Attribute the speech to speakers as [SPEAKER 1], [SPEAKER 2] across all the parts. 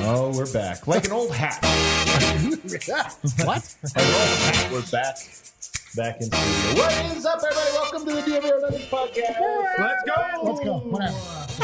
[SPEAKER 1] Oh, we're back. Like an old hat.
[SPEAKER 2] What?
[SPEAKER 1] Like an old hat. We're back. Back in studio. What is up, everybody? Welcome to the Do You Ever Hear Nuggets podcast.
[SPEAKER 3] Let's go.
[SPEAKER 2] Let's go. Whatever.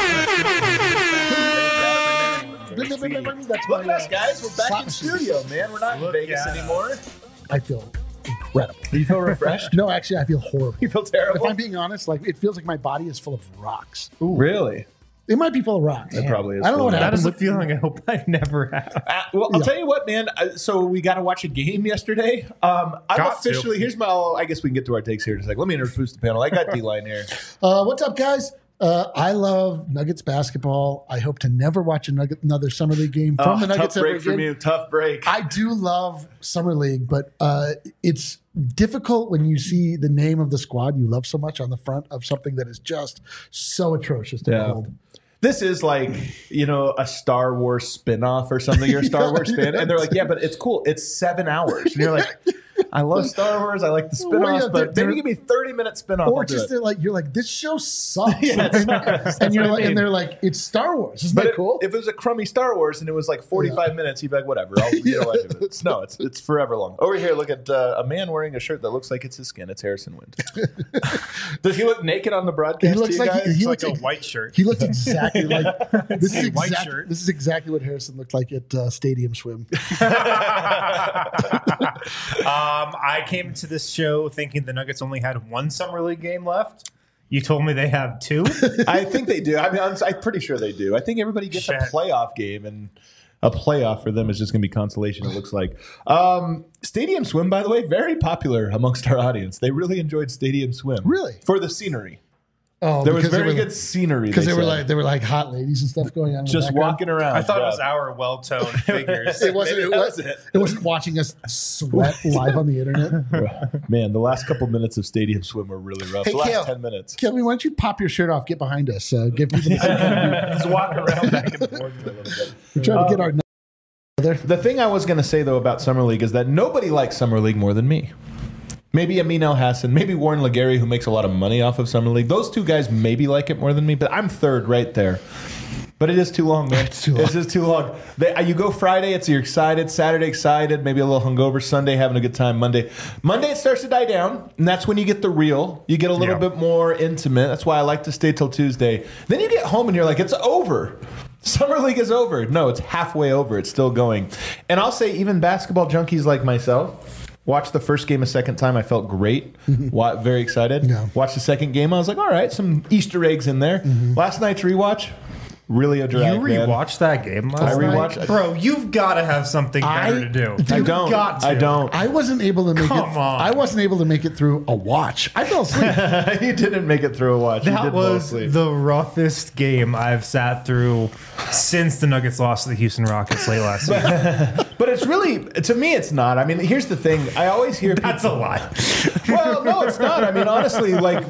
[SPEAKER 2] That's
[SPEAKER 1] Look
[SPEAKER 2] my,
[SPEAKER 1] at us, guys. We're back
[SPEAKER 2] slot
[SPEAKER 1] in
[SPEAKER 2] machine.
[SPEAKER 1] studio, man. We're not in
[SPEAKER 3] Look
[SPEAKER 1] Vegas
[SPEAKER 3] at
[SPEAKER 1] anymore.
[SPEAKER 2] I feel incredible.
[SPEAKER 1] Do you feel refreshed?
[SPEAKER 2] No, actually, I feel horrible.
[SPEAKER 1] You feel
[SPEAKER 2] If
[SPEAKER 1] terrible?
[SPEAKER 2] I'm being honest, like it feels like my body is full of rocks.
[SPEAKER 1] Really?
[SPEAKER 2] It might be full of rocks.
[SPEAKER 1] It probably is.
[SPEAKER 2] I don't know what
[SPEAKER 3] That
[SPEAKER 2] happened.
[SPEAKER 3] is a feeling I hope I never have.
[SPEAKER 1] Well, I'll
[SPEAKER 2] Yeah.
[SPEAKER 1] tell you what, man. So we got to watch a game yesterday. I'm
[SPEAKER 3] Got to.
[SPEAKER 1] officially. Here's my. I guess we can get to our takes here in a second. Let me introduce the panel. I got D-Line here.
[SPEAKER 2] What's up, guys? I love Nuggets basketball. I hope to never watch another Summer League game from the Nuggets
[SPEAKER 1] tough
[SPEAKER 2] ever
[SPEAKER 1] break from
[SPEAKER 2] again.
[SPEAKER 1] you. Tough break.
[SPEAKER 2] I do love Summer League, but it's difficult when you see the name of the squad you love so much on the front of something that is just so atrocious to
[SPEAKER 1] Yeah.
[SPEAKER 2] behold.
[SPEAKER 1] This is like, a Star Wars spinoff or something. You're a Star Wars fan. And they're like, yeah, but it's cool. It's 7 hours. And you're like, I love Star Wars. I like the
[SPEAKER 2] Well, yeah,
[SPEAKER 1] spinoffs, but
[SPEAKER 2] they're-
[SPEAKER 1] maybe give me 30-minute spinoff.
[SPEAKER 2] Or
[SPEAKER 1] I'll do
[SPEAKER 2] just
[SPEAKER 1] it.
[SPEAKER 2] you're like, this show sucks.
[SPEAKER 1] Yeah, it sucks.
[SPEAKER 2] and you're
[SPEAKER 1] That's what I
[SPEAKER 2] like,
[SPEAKER 1] mean.
[SPEAKER 2] and they're like, it's Star Wars. Isn't
[SPEAKER 1] But
[SPEAKER 2] that cool?
[SPEAKER 1] if it was a crummy Star Wars and it was like 45 minutes, you'd be like, whatever. I'll get away with it. No, it's forever long. Over here, look at a man wearing a shirt that looks like it's his skin. It's Harrison Wind. Does he look naked on the broadcast?
[SPEAKER 2] He looks
[SPEAKER 1] to you
[SPEAKER 2] like
[SPEAKER 1] guys?
[SPEAKER 2] he
[SPEAKER 3] It's like
[SPEAKER 2] looks
[SPEAKER 3] a white shirt.
[SPEAKER 2] He looked exactly like this. Is
[SPEAKER 3] a white
[SPEAKER 2] exact,
[SPEAKER 3] shirt.
[SPEAKER 2] This is exactly what Harrison looked like at Stadium Swim.
[SPEAKER 3] I came to this show thinking the Nuggets only had one Summer League game left. You told me they have two.
[SPEAKER 1] I think they do. I mean, I'm pretty sure they do. I think everybody gets a
[SPEAKER 3] Shit.
[SPEAKER 1] playoff game, and a playoff for them is just going to be consolation, it looks like. Stadium Swim, by the way, very popular amongst our audience. They really enjoyed Stadium Swim.
[SPEAKER 2] Really?
[SPEAKER 1] For the scenery.
[SPEAKER 2] Oh,
[SPEAKER 1] There was
[SPEAKER 2] because they
[SPEAKER 1] very
[SPEAKER 2] were-
[SPEAKER 1] good scenery.
[SPEAKER 2] because they
[SPEAKER 1] said.
[SPEAKER 2] were like hot ladies and stuff going on. in the
[SPEAKER 1] just
[SPEAKER 2] background.
[SPEAKER 1] walking around.
[SPEAKER 3] I thought it was
[SPEAKER 1] yeah.
[SPEAKER 3] our well-toned figures.
[SPEAKER 2] It wasn't.
[SPEAKER 1] Maybe
[SPEAKER 2] It,
[SPEAKER 1] that
[SPEAKER 2] was,
[SPEAKER 1] was it.
[SPEAKER 2] it wasn't watching us sweat live on the internet.
[SPEAKER 1] Man, the last couple minutes of Stadium Swim were really rough.
[SPEAKER 2] Hey,
[SPEAKER 1] the last
[SPEAKER 2] Kale.
[SPEAKER 1] 10 minutes.
[SPEAKER 2] Kelly, why don't you pop your shirt off? Get behind us. Give people the second.
[SPEAKER 1] Just walk around back and forth a little bit.
[SPEAKER 2] We're trying to get our.
[SPEAKER 1] The thing I was going to say, though, about Summer League is that nobody likes Summer League more than me. Maybe Amin El Hassan, maybe Warren Legary, who makes a lot of money off of Summer League. Those two guys maybe like it more than me, but I'm third right there. But it is too long, man.
[SPEAKER 2] It's too long.
[SPEAKER 1] It's just too long. You go Friday, you're excited. Saturday, excited. Maybe a little hungover. Sunday, having a good time. Monday, it starts to die down, and that's when you get the real. You get a little bit more intimate. That's why I like to stay till Tuesday. Then you get home, and you're like, it's over. Summer League is over. No, it's halfway over. It's still going. And I'll say even basketball junkies like myself watched the first game a second time. I felt great. Very excited.
[SPEAKER 2] Yeah.
[SPEAKER 1] Watched the second game. I was like, all right, some Easter eggs in there. Last night's rewatch, really a drag,
[SPEAKER 3] You
[SPEAKER 1] man.
[SPEAKER 3] rewatched that game last
[SPEAKER 1] I
[SPEAKER 3] night?
[SPEAKER 1] rewatched-
[SPEAKER 3] Bro, you've got to have something better
[SPEAKER 2] I-
[SPEAKER 3] to do.
[SPEAKER 2] I
[SPEAKER 3] You've
[SPEAKER 1] don't.
[SPEAKER 3] got to.
[SPEAKER 1] I don't.
[SPEAKER 2] I wasn't able to make
[SPEAKER 3] Come
[SPEAKER 2] it.
[SPEAKER 3] on.
[SPEAKER 2] I wasn't able to make it through a watch. I fell asleep.
[SPEAKER 1] You didn't make it through a watch. You
[SPEAKER 3] That
[SPEAKER 1] did fall
[SPEAKER 3] was
[SPEAKER 1] asleep.
[SPEAKER 3] the roughest game I've sat through since the Nuggets lost to the Houston Rockets late last season.
[SPEAKER 1] But it's really, to me, it's not. I mean, here's the thing. I always hear
[SPEAKER 3] That's a
[SPEAKER 1] people,
[SPEAKER 3] lie.
[SPEAKER 1] well, no, it's not. I mean, honestly, like,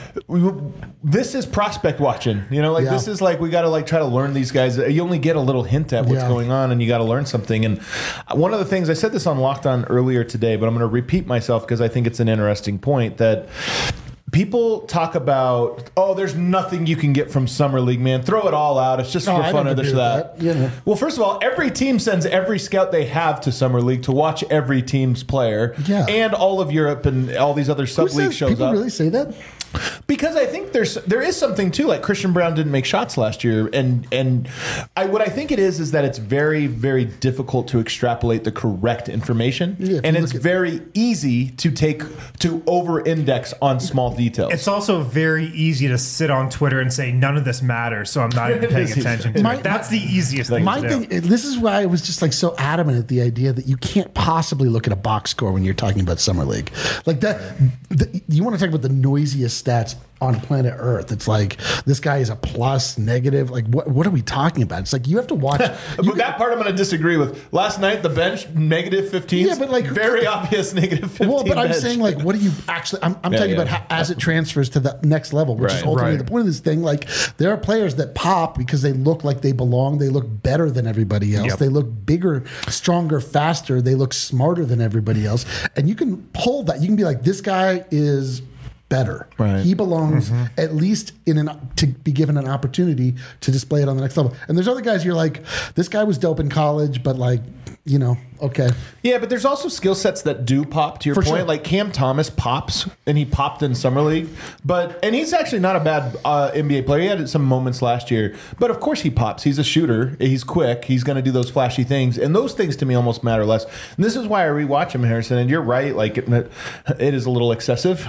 [SPEAKER 1] this is prospect watching.
[SPEAKER 2] Yeah.
[SPEAKER 1] This is like, we got to like try to learn these guys. You only get a little hint at what's
[SPEAKER 2] Yeah.
[SPEAKER 1] going on, and you got to learn something. And one of the things, I said this on Locked On earlier today, but I'm going to repeat myself because I think it's an interesting point that people talk about, oh, there's nothing you can get from Summer League, man. Throw it all out. It's just
[SPEAKER 2] No,
[SPEAKER 1] for
[SPEAKER 2] I
[SPEAKER 1] fun
[SPEAKER 2] don't
[SPEAKER 1] or this
[SPEAKER 2] agree
[SPEAKER 1] or
[SPEAKER 2] with
[SPEAKER 1] that.
[SPEAKER 2] that. You know.
[SPEAKER 1] Well, first of all, every team sends every scout they have to Summer League to watch every team's player.
[SPEAKER 2] Yeah.
[SPEAKER 1] And all of Europe and all these other
[SPEAKER 2] Who
[SPEAKER 1] sub-league
[SPEAKER 2] says-
[SPEAKER 1] shows
[SPEAKER 2] people
[SPEAKER 1] up.
[SPEAKER 2] really say that?
[SPEAKER 1] Because I think there is something too. Like Christian Brown didn't make shots last year, and what I think it is that it's very, very difficult to extrapolate the correct information,
[SPEAKER 2] Yeah, if
[SPEAKER 1] and
[SPEAKER 2] you
[SPEAKER 1] it's
[SPEAKER 2] look at-
[SPEAKER 1] very easy to over-index on small details.
[SPEAKER 3] It's also very easy to sit on Twitter and say none of this matters, so I'm not even
[SPEAKER 1] It
[SPEAKER 3] paying
[SPEAKER 1] is easy.
[SPEAKER 3] attention to
[SPEAKER 2] My-
[SPEAKER 3] it. That's the easiest thing
[SPEAKER 2] My
[SPEAKER 3] to do.
[SPEAKER 2] thing, this is why I was just like so adamant at the idea that you can't possibly look at a box score when you're talking about Summer League. Like that, you want to talk about the noisiest stats on planet Earth. It's like this guy is a plus, negative. Like what are we talking about? It's like you have to watch.
[SPEAKER 1] But that part I'm going to disagree with. Last night, the bench, negative 15.
[SPEAKER 2] Yeah, but like-
[SPEAKER 1] very obvious negative 15.
[SPEAKER 2] Well, but I'm
[SPEAKER 1] bench.
[SPEAKER 2] saying like, what do you actually? I'm talking
[SPEAKER 1] yeah.
[SPEAKER 2] about how, as it transfers to the next level, which is
[SPEAKER 1] Right,
[SPEAKER 2] ultimately
[SPEAKER 3] right.
[SPEAKER 2] the point of this thing. Like, there are players that pop because they look like they belong. They look better than everybody else.
[SPEAKER 3] Yep.
[SPEAKER 2] They look bigger, stronger, faster. They look smarter than everybody else. And you can pull that. You can be like, this guy is better.
[SPEAKER 1] Right.
[SPEAKER 2] He belongs at least to be given an opportunity to display it on the next level. And there's other guys you're like, this guy was dope in college, but like, okay.
[SPEAKER 1] Yeah, but there's also skill sets that do pop, to your
[SPEAKER 2] For
[SPEAKER 1] point.
[SPEAKER 2] sure.
[SPEAKER 1] Like Cam Thomas pops, and he popped in Summer League. And he's actually not a bad NBA player. He had some moments last year. But of course he pops. He's a shooter. He's quick. He's going to do those flashy things. And those things to me almost matter less. And this is why I rewatch him, Harrison. And you're right. Like, it is a little excessive,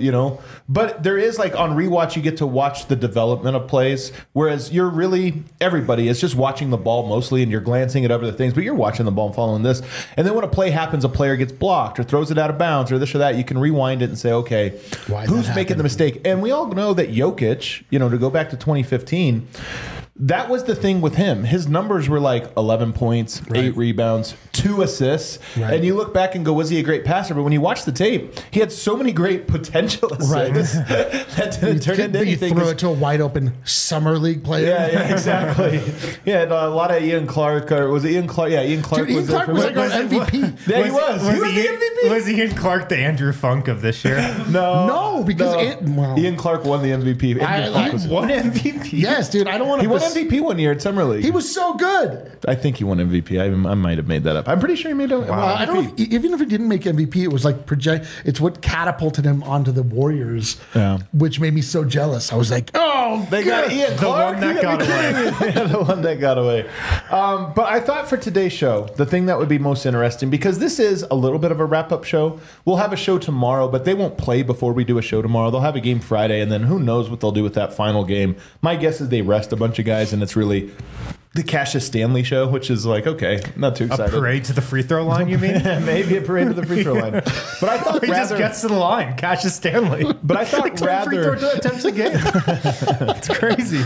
[SPEAKER 1] But there is, like, on rewatch, you get to watch the development of plays. Whereas everybody is just watching the ball mostly, and you're glancing at other things. But you're watching the ball and following this. And then when a play happens, a player gets blocked or throws it out of bounds or this or that, you can rewind it and say, okay, who's making the mistake? And we all know that Jokic, to go back to 2015, that was the thing with him. His numbers were like 11 points, 8 rebounds, 2 assists. Right. And you look back and go, was he a great passer? But when you watch the tape, he had so many great potential assists that didn't turn into anything.
[SPEAKER 2] You throw it to a wide open Summer League player.
[SPEAKER 1] Yeah, exactly. Yeah, a lot of Ian Clark. Or was it Ian Clark? Yeah, Ian Clark.
[SPEAKER 2] Dude, Ian Clark was like our MVP.
[SPEAKER 1] Yeah, he was. He was the MVP.
[SPEAKER 3] Was Ian Clark the Andrew Funk of this year?
[SPEAKER 2] No, because
[SPEAKER 1] Ian Clark won the MVP.
[SPEAKER 3] He won MVP?
[SPEAKER 2] Yes, dude. I don't want to.
[SPEAKER 1] He won MVP one year at Summer League.
[SPEAKER 2] He was so good.
[SPEAKER 1] I think he won MVP. I might have made that up. I'm pretty sure he made MVP.
[SPEAKER 2] I don't know even if he didn't make MVP, it was like it's what catapulted him onto the Warriors, which made me so jealous. I was like, oh,
[SPEAKER 1] they got Ian Clark.
[SPEAKER 3] The one that got away.
[SPEAKER 1] Yeah, the one that got away. But I thought for today's show, the thing that would be most interesting, because this is a little bit of a wrap-up show. We'll have a show tomorrow, but they won't play before we do a show tomorrow. They'll have a game Friday, and then who knows what they'll do with that final game. My guess is they rest a bunch of guys, and it's really the Cassius Stanley show, which is like, okay, not too excited.
[SPEAKER 3] A parade to the free throw line, you mean?
[SPEAKER 1] Maybe a parade to the free throw line. But I thought
[SPEAKER 3] he just gets to the line, Cassius Stanley.
[SPEAKER 1] But I thought
[SPEAKER 3] free throw attempts a game. It's crazy.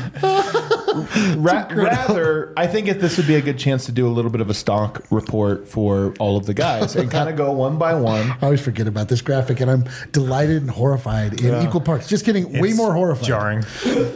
[SPEAKER 1] Rather, I think this would be a good chance to do a little bit of a stock report for all of the guys and kind of go one by one.
[SPEAKER 2] I always forget about this graphic, and I'm delighted and horrified in equal parts. Just kidding, way more horrified.
[SPEAKER 3] Jarring.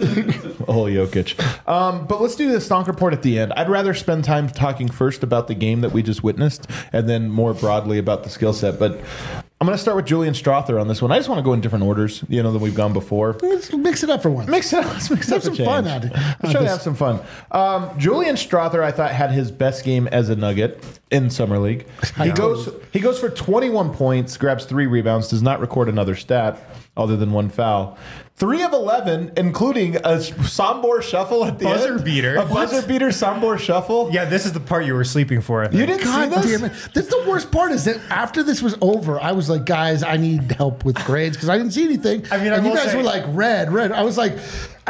[SPEAKER 1] Oh, Jokic. But let's do the stock report at the end. I'd rather spend time talking first about the game that we just witnessed and then more broadly about the skill set. But I'm going to start with Julian Strawther on this one. I just want to go in different orders, than we've gone before.
[SPEAKER 2] Let's mix it up for once.
[SPEAKER 1] Let's have
[SPEAKER 2] some fun at it.
[SPEAKER 1] Let's try to have some fun. Julian Strawther, I thought, had his best game as a Nugget in Summer League. He goes for 21 points, grabs 3 rebounds, does not record another stat other than 1 foul. 3 of 11, including a Sombor shuffle at the
[SPEAKER 3] buzzer
[SPEAKER 1] end.
[SPEAKER 3] beater.
[SPEAKER 1] A buzzer beater Sombor shuffle.
[SPEAKER 3] Yeah, this is the part you were sleeping for. I think.
[SPEAKER 1] You didn't
[SPEAKER 2] God
[SPEAKER 1] see this?
[SPEAKER 2] damn it. That's the worst part is that after this was over, I was like, guys, I need help with grades because I didn't see anything.
[SPEAKER 3] I mean,
[SPEAKER 2] and you guys were like, red. I was like,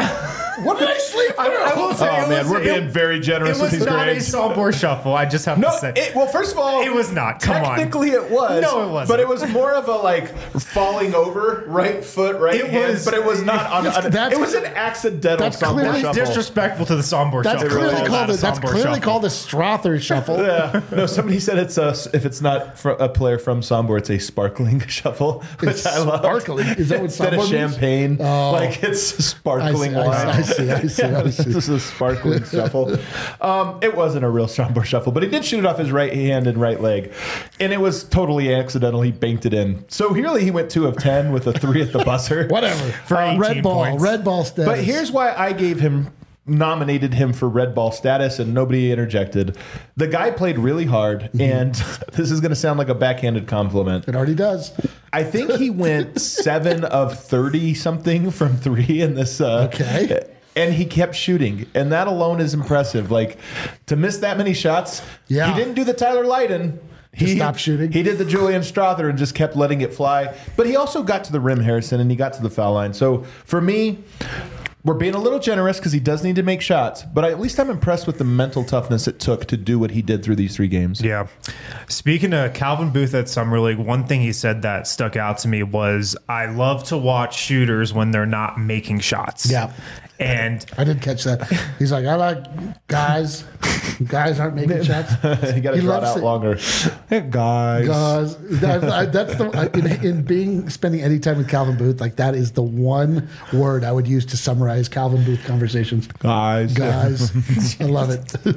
[SPEAKER 2] what did I sleep through?
[SPEAKER 3] I will say
[SPEAKER 1] we're being very generous with these grades.
[SPEAKER 3] It was not a Sombor shuffle. I just have to say.
[SPEAKER 1] Well, first of all,
[SPEAKER 3] it was not. Come on.
[SPEAKER 1] Technically, it was.
[SPEAKER 3] No, it wasn't.
[SPEAKER 1] But it was more of a falling over, right foot, right hand. But it was not on. It was an accidental Sombor shuffle.
[SPEAKER 3] Disrespectful to the Sombor shuffle.
[SPEAKER 2] That's clearly called a Strawther shuffle.
[SPEAKER 1] Yeah. No, somebody said if it's not a player from Sombor, it's a sparkling shuffle, which I love.
[SPEAKER 2] Sparkling? Is that what
[SPEAKER 1] Instead of champagne, it's sparkling wine.
[SPEAKER 2] I see.
[SPEAKER 1] This is a sparkling shuffle. It wasn't a real Sombor shuffle, but he did shoot it off his right hand and right leg, and it was totally accidental. He banked it in. So really, he went 2 of 10 with a 3 at the buzzer.
[SPEAKER 2] Whatever.
[SPEAKER 3] For 18
[SPEAKER 2] red ball status.
[SPEAKER 1] But here's why I nominated him for red ball status and nobody interjected. The guy played really hard, and this is going to sound like a backhanded compliment.
[SPEAKER 2] It already does.
[SPEAKER 1] I think he went 7 of 30 something from 3 in this.
[SPEAKER 2] Okay.
[SPEAKER 1] And he kept shooting, and that alone is impressive. To miss that many shots, he didn't do the Tyler Lydon. He
[SPEAKER 2] stopped shooting.
[SPEAKER 1] He did the Julian Strawther and just kept letting it fly. But he also got to the rim, Harrison, and he got to the foul line. So for me, we're being a little generous because he does need to make shots, but at least I'm impressed with the mental toughness it took to do what he did through these 3 games.
[SPEAKER 3] Yeah. Speaking of Calvin Booth at Summer League, one thing he said that stuck out to me was, I love to watch shooters when they're not making shots.
[SPEAKER 2] Yeah.
[SPEAKER 3] And
[SPEAKER 2] I did catch that. He's like, I like guys. Guys aren't making shots.
[SPEAKER 1] You got to draw it out longer. Hey, guys.
[SPEAKER 2] That's spending any time with Calvin Booth. That is the one word I would use to summarize Calvin Booth conversations.
[SPEAKER 1] Guys.
[SPEAKER 2] I love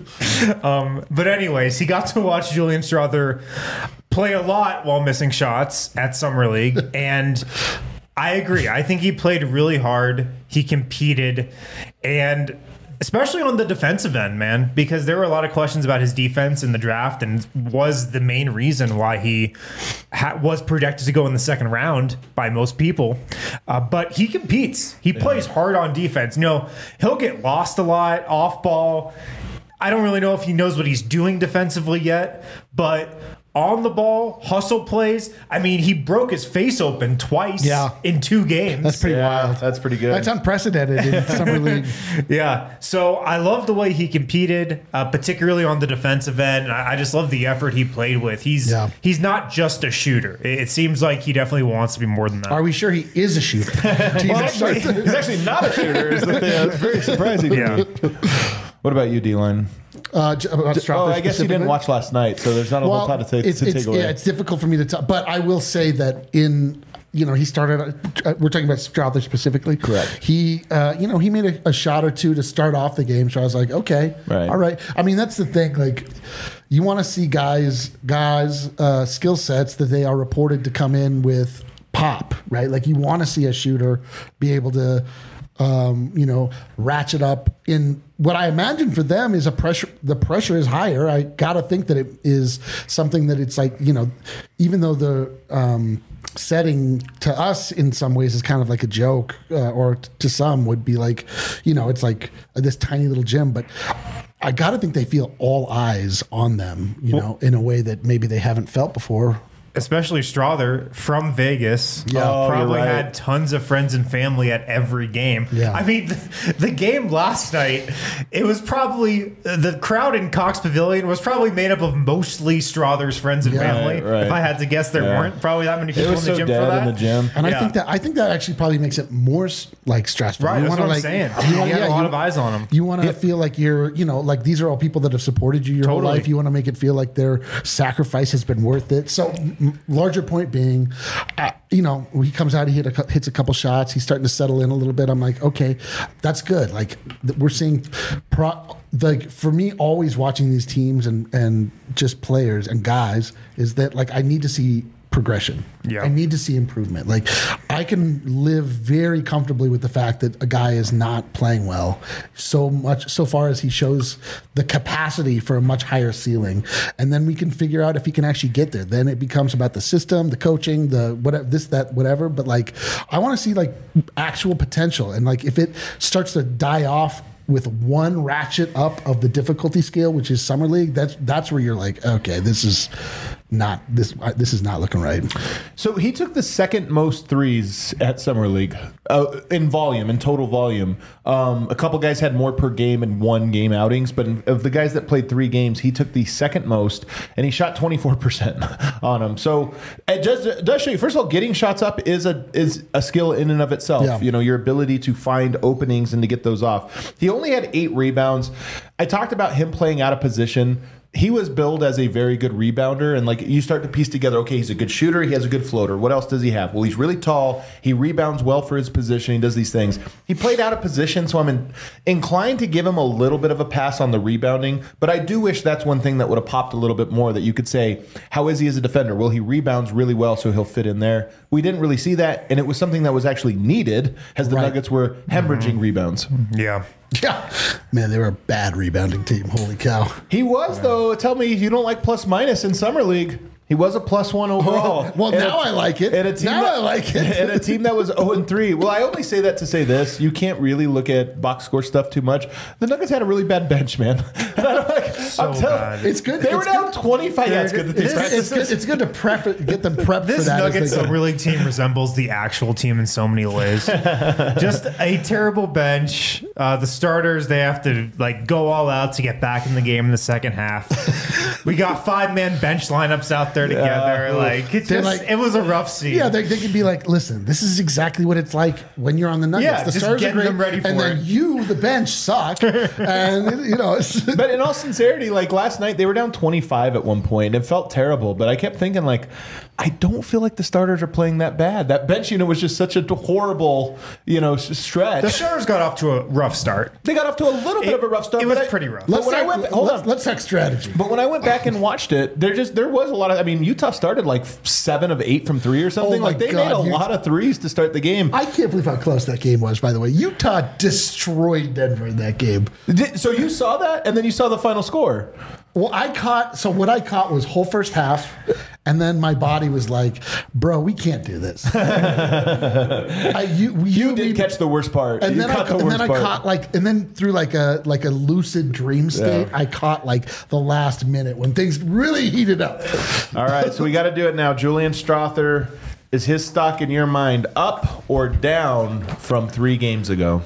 [SPEAKER 2] it.
[SPEAKER 3] But anyways, he got to watch Julian Strawther play a lot while missing shots at Summer League, and I agree. I think he played really hard. He competed, and especially on the defensive end, man, because there were a lot of questions about his defense in the draft and was the main reason why he was projected to go in the second round by most people. But he competes. He plays hard on defense. You know, he'll get lost a lot off ball. I don't really know if he knows what he's doing defensively yet, but on the ball, hustle plays. I mean, he broke his face open twice in 2 games.
[SPEAKER 2] That's pretty wild.
[SPEAKER 1] That's pretty good.
[SPEAKER 2] That's unprecedented in summer league.
[SPEAKER 3] Yeah. So I love the way he competed, particularly on the defensive end. And I just love the effort he played with. He's not just a shooter. It seems like he definitely wants to be more than that.
[SPEAKER 2] Are we sure he is a shooter?
[SPEAKER 1] He's actually not a shooter. Is the thing. That's very surprising.
[SPEAKER 3] Yeah.
[SPEAKER 1] What about you, D-Line?
[SPEAKER 2] I
[SPEAKER 1] guess you didn't watch last night, so there's not a whole lot to take away.
[SPEAKER 2] Yeah, it's difficult for me to tell, but I will say that he started. We're talking about Strawther specifically.
[SPEAKER 1] Correct.
[SPEAKER 2] He made a shot or two to start off the game, so I was like, okay, all right. I mean, that's the thing. Like, you want to see guys' skill sets that they are reported to come in with pop, right? Like, you want to see a shooter be able to, ratchet up in what I imagine for them is the pressure is higher. I got to think that it is something that it's like, even though the setting to us in some ways is kind of like a joke, or to some would be like, it's like this tiny little gym, but I got to think they feel all eyes on them, in a way that maybe they haven't felt before.
[SPEAKER 3] Especially Strawther from Vegas.
[SPEAKER 2] Yeah.
[SPEAKER 3] Probably had tons of friends and family at every game.
[SPEAKER 2] Yeah.
[SPEAKER 3] I mean, the game last night, it was probably, the crowd in Cox Pavilion was probably made up of mostly Strawther's friends and family.
[SPEAKER 1] Right.
[SPEAKER 3] If I had to guess, there weren't probably that many people in the gym for that.
[SPEAKER 1] In the gym.
[SPEAKER 2] And I think that actually probably makes it more like stressful.
[SPEAKER 3] Right, that's what I'm saying. He had a lot of eyes on him.
[SPEAKER 2] You want to feel like you're, like these are all people that have supported you your whole life. You want to make it feel like their sacrifice has been worth it. So larger point being, he comes out, he hits a couple shots, he's starting to settle in a little bit. I'm like, okay, that's good. Like, we're seeing, for me, always watching these teams and just players and guys is that, like, I need to see progression.
[SPEAKER 3] Yeah.
[SPEAKER 2] I need to see improvement. Like, I can live very comfortably with the fact that a guy is not playing well so far as he shows the capacity for a much higher ceiling. And then we can figure out if he can actually get there. Then it becomes about the system, the coaching, the whatever, this, that, whatever. But, like, I want to see, like, actual potential. And, like, if it starts to die off with one ratchet up of the difficulty scale, which is Summer League, that's where you're like, okay, this is not looking right.
[SPEAKER 1] So he took the second most threes at Summer League in total volume. A couple guys had more per game in 1 game outings, but of the guys that played 3 games, he took the second most, and he shot 24% on them. So it does show you, first of all, getting shots up is a skill in and of itself.
[SPEAKER 2] Yeah.
[SPEAKER 1] Your ability to find openings and to get those off. He only had 8 rebounds. I talked about him playing out of position. He was billed as a very good rebounder, and like you start to piece together, okay, he's a good shooter, he has a good floater. What else does he have? Well, he's really tall, he rebounds well for his position, he does these things. He played out of position, so I'm inclined to give him a little bit of a pass on the rebounding, but I do wish that's one thing that would have popped a little bit more, that you could say, how is he as a defender? Well, he rebounds really well, so he'll fit in there. We didn't really see that, and it was something that was actually needed as the Nuggets were hemorrhaging rebounds.
[SPEAKER 3] Yeah.
[SPEAKER 2] Yeah. Man, they were a bad rebounding team. Holy cow.
[SPEAKER 1] He was, though. Tell me you don't like plus minus in Summer League. He was a +1 overall.
[SPEAKER 2] Well, now I like it. I like it.
[SPEAKER 1] And a team that was 0-3. Well, I only say that to say this. You can't really look at box score stuff too much. The Nuggets had a really bad bench, man.
[SPEAKER 3] Bad.
[SPEAKER 2] It's good.
[SPEAKER 1] They were down 25. Yeah, it's good that they practiced.
[SPEAKER 2] It's good to get them prepped
[SPEAKER 3] this
[SPEAKER 2] for that.
[SPEAKER 3] Nuggets Summer League team resembles the actual team in so many ways. Just a terrible bench. The starters, they have to like go all out to get back in the game in the second half. We got 5-man bench lineups out there together. It was a rough scene.
[SPEAKER 2] Yeah, they can be like, listen, this is exactly what it's like when you're on the Nuggets.
[SPEAKER 3] Yeah,
[SPEAKER 2] the
[SPEAKER 3] just
[SPEAKER 2] stars
[SPEAKER 3] getting
[SPEAKER 2] are great,
[SPEAKER 3] them ready for
[SPEAKER 2] and then
[SPEAKER 3] it.
[SPEAKER 2] you, the bench, suck. And
[SPEAKER 1] But in all sincerity, like last night, they were down 25 at one point. It felt terrible, but I kept thinking, like, I don't feel like the starters are playing that bad. That bench unit was just such a horrible, stretch.
[SPEAKER 3] The starters got off to a rough start.
[SPEAKER 1] They got off to a little bit of a rough start.
[SPEAKER 3] It was pretty rough.
[SPEAKER 2] let's talk strategy.
[SPEAKER 1] But when I went back and watched it, there was a lot of. mean, Utah started like 7 of 8 from 3 or something.
[SPEAKER 2] Oh my
[SPEAKER 1] Like they
[SPEAKER 2] God,
[SPEAKER 1] made a lot of threes to start the game.
[SPEAKER 2] I can't believe how close that game was, by the way. Utah destroyed Denver in that game.
[SPEAKER 1] So you saw that, and then you saw the final score.
[SPEAKER 2] Well, what I caught was whole first half, and then my body was like, bro, we can't do this.
[SPEAKER 1] You did catch the worst part.
[SPEAKER 2] And
[SPEAKER 1] You
[SPEAKER 2] then I
[SPEAKER 1] caught the worst part.
[SPEAKER 2] caught and then through like a lucid dream state, I caught like the last minute when things really heated up.
[SPEAKER 1] All right, so we got to do it now. Julian Strother, is his stock in your mind up or down from 3 games ago?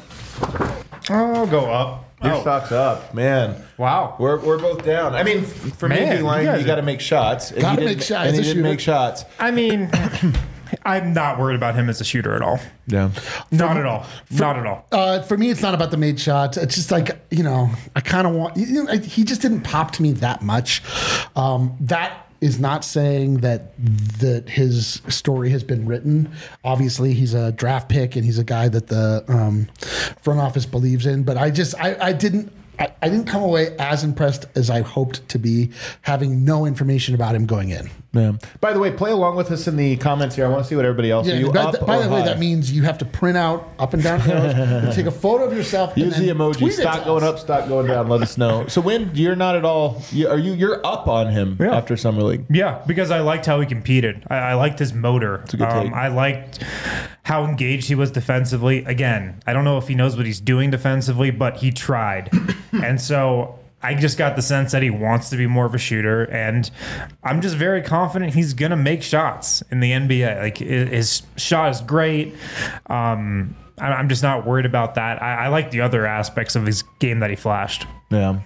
[SPEAKER 3] I'll go up.
[SPEAKER 1] Your stock's up, man.
[SPEAKER 3] Wow.
[SPEAKER 1] We're both down. I mean, for me,
[SPEAKER 3] Man,
[SPEAKER 1] D-line,
[SPEAKER 3] you
[SPEAKER 1] you got to make shots. And
[SPEAKER 2] Gotta
[SPEAKER 1] he
[SPEAKER 2] make
[SPEAKER 1] didn't-
[SPEAKER 2] shots.
[SPEAKER 1] And he
[SPEAKER 2] As a
[SPEAKER 1] didn't
[SPEAKER 2] shooter.
[SPEAKER 1] make shots.
[SPEAKER 3] I mean, I'm not worried about him as a shooter at all.
[SPEAKER 1] Yeah.
[SPEAKER 3] Not at all. Not at all.
[SPEAKER 2] For me, it's not about the made shots. It's just like, I kind of want, he just didn't pop to me that much. That is not saying that his story has been written. Obviously, he's a draft pick and he's a guy that the front office believes in. But I didn't come away as impressed as I hoped to be, having no information about him going in.
[SPEAKER 1] Yeah. By the way, play along with us in the comments here. I want to see what everybody else. Are you
[SPEAKER 2] by
[SPEAKER 1] up
[SPEAKER 2] by
[SPEAKER 1] or
[SPEAKER 2] the way,
[SPEAKER 1] high?
[SPEAKER 2] that means you have to print out up and down arrows and take a photo of yourself.
[SPEAKER 1] Use
[SPEAKER 2] and
[SPEAKER 1] the
[SPEAKER 2] then
[SPEAKER 1] emoji.
[SPEAKER 2] tweet it
[SPEAKER 1] Stock
[SPEAKER 2] to
[SPEAKER 1] going
[SPEAKER 2] us.
[SPEAKER 1] up, stock going down. Let us know. So when you're not at all, you're up on him after Summer League.
[SPEAKER 3] Yeah, because I liked how he competed. I liked his motor.
[SPEAKER 1] a good take.
[SPEAKER 3] I liked how engaged he was defensively. Again, I don't know if he knows what he's doing defensively, but he tried. And so I just got the sense that he wants to be more of a shooter, and I'm just very confident he's going to make shots in the NBA. Like, his shot is great. I'm just not worried about that. I like the other aspects of his game that he flashed.
[SPEAKER 1] Yeah.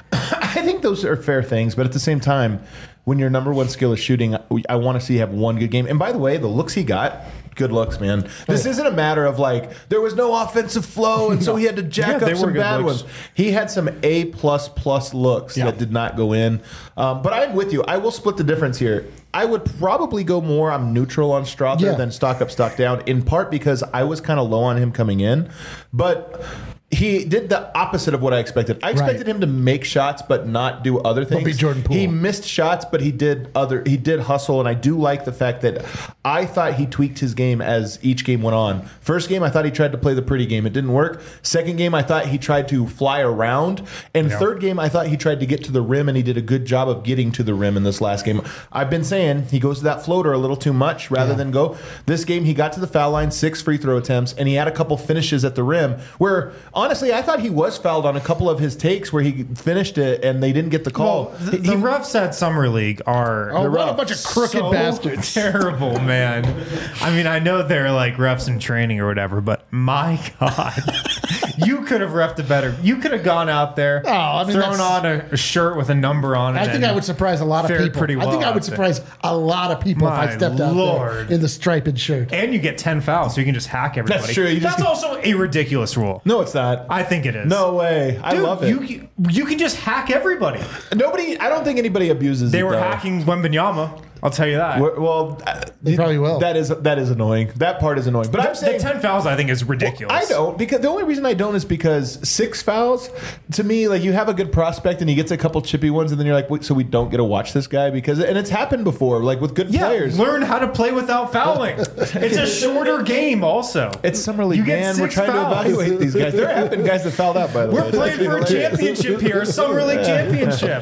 [SPEAKER 1] I think those are fair things, but at the same time, when your number one skill is shooting, I want to see you have one good game. And by the way, the looks he got, good looks, man. This isn't a matter of like, there was no offensive flow, and so he had to jack
[SPEAKER 3] they
[SPEAKER 1] up
[SPEAKER 3] were
[SPEAKER 1] some
[SPEAKER 3] good
[SPEAKER 1] bad
[SPEAKER 3] looks.
[SPEAKER 1] ones. He had some A++ looks that did not go in. But I'm with you. I will split the difference here. I would probably go more, I'm neutral on Strother than stock up, stock down, in part because I was kind of low on him coming in. But he did the opposite of what I expected. I expected him to make shots but not do other things.
[SPEAKER 2] be Jordan Poole.
[SPEAKER 1] He missed shots, but he did hustle, and I do like the fact that I thought he tweaked his game as each game went on. First game, I thought he tried to play the pretty game. It didn't work. Second game, I thought he tried to fly around. And third game, I thought he tried to get to the rim, and he did a good job of getting to the rim in this last game. I've been saying he goes to that floater a little too much rather than go. This game, he got to the foul line, 6 free throw attempts, and he had a couple finishes at the rim where, honestly, I thought he was fouled on a couple of his takes where he finished it and they didn't get the call.
[SPEAKER 3] Well, the refs at Summer League are
[SPEAKER 2] what a bunch of crooked bastards.
[SPEAKER 3] Terrible, man. I mean, I know they're like refs in training or whatever, but my God, you could have refed it better. You could have gone out there, thrown on a shirt with a number on it.
[SPEAKER 2] I think I would surprise a lot of
[SPEAKER 3] fared
[SPEAKER 2] people.
[SPEAKER 3] pretty
[SPEAKER 2] I think
[SPEAKER 3] well
[SPEAKER 2] I would
[SPEAKER 3] out there.
[SPEAKER 2] surprise a lot of people if I
[SPEAKER 3] My
[SPEAKER 2] stepped out
[SPEAKER 3] Lord.
[SPEAKER 2] there in the striped shirt.
[SPEAKER 3] And you get 10 fouls, so you can just hack everybody.
[SPEAKER 1] That's true.
[SPEAKER 3] That's also a ridiculous rule.
[SPEAKER 1] No, it's not.
[SPEAKER 3] I think it is.
[SPEAKER 1] No way. I
[SPEAKER 3] Dude,
[SPEAKER 1] love it.
[SPEAKER 3] You can just hack everybody.
[SPEAKER 1] I don't think anybody abuses
[SPEAKER 3] They
[SPEAKER 1] it,
[SPEAKER 3] were
[SPEAKER 1] though.
[SPEAKER 3] hacking Wembanyama. I'll tell you that.
[SPEAKER 1] Well,
[SPEAKER 2] They probably will.
[SPEAKER 1] That is annoying. That part is annoying. But I'm
[SPEAKER 3] The
[SPEAKER 1] saying
[SPEAKER 3] 10 fouls, I think, is ridiculous.
[SPEAKER 1] I don't, because the only reason I don't is because 6 fouls, to me, like, you have a good prospect and he gets a couple chippy ones and then you're like, wait, so we don't get to watch this guy? And it's happened before, like with good players.
[SPEAKER 3] Learn how to play without fouling. It's a shorter game, also.
[SPEAKER 1] It's Summer League,
[SPEAKER 3] You get
[SPEAKER 1] man. We're
[SPEAKER 3] 6
[SPEAKER 1] trying
[SPEAKER 3] fouls.
[SPEAKER 1] to evaluate these guys. There have been guys that fouled out, by the way.
[SPEAKER 3] We're playing for a championship here, a Summer League championship.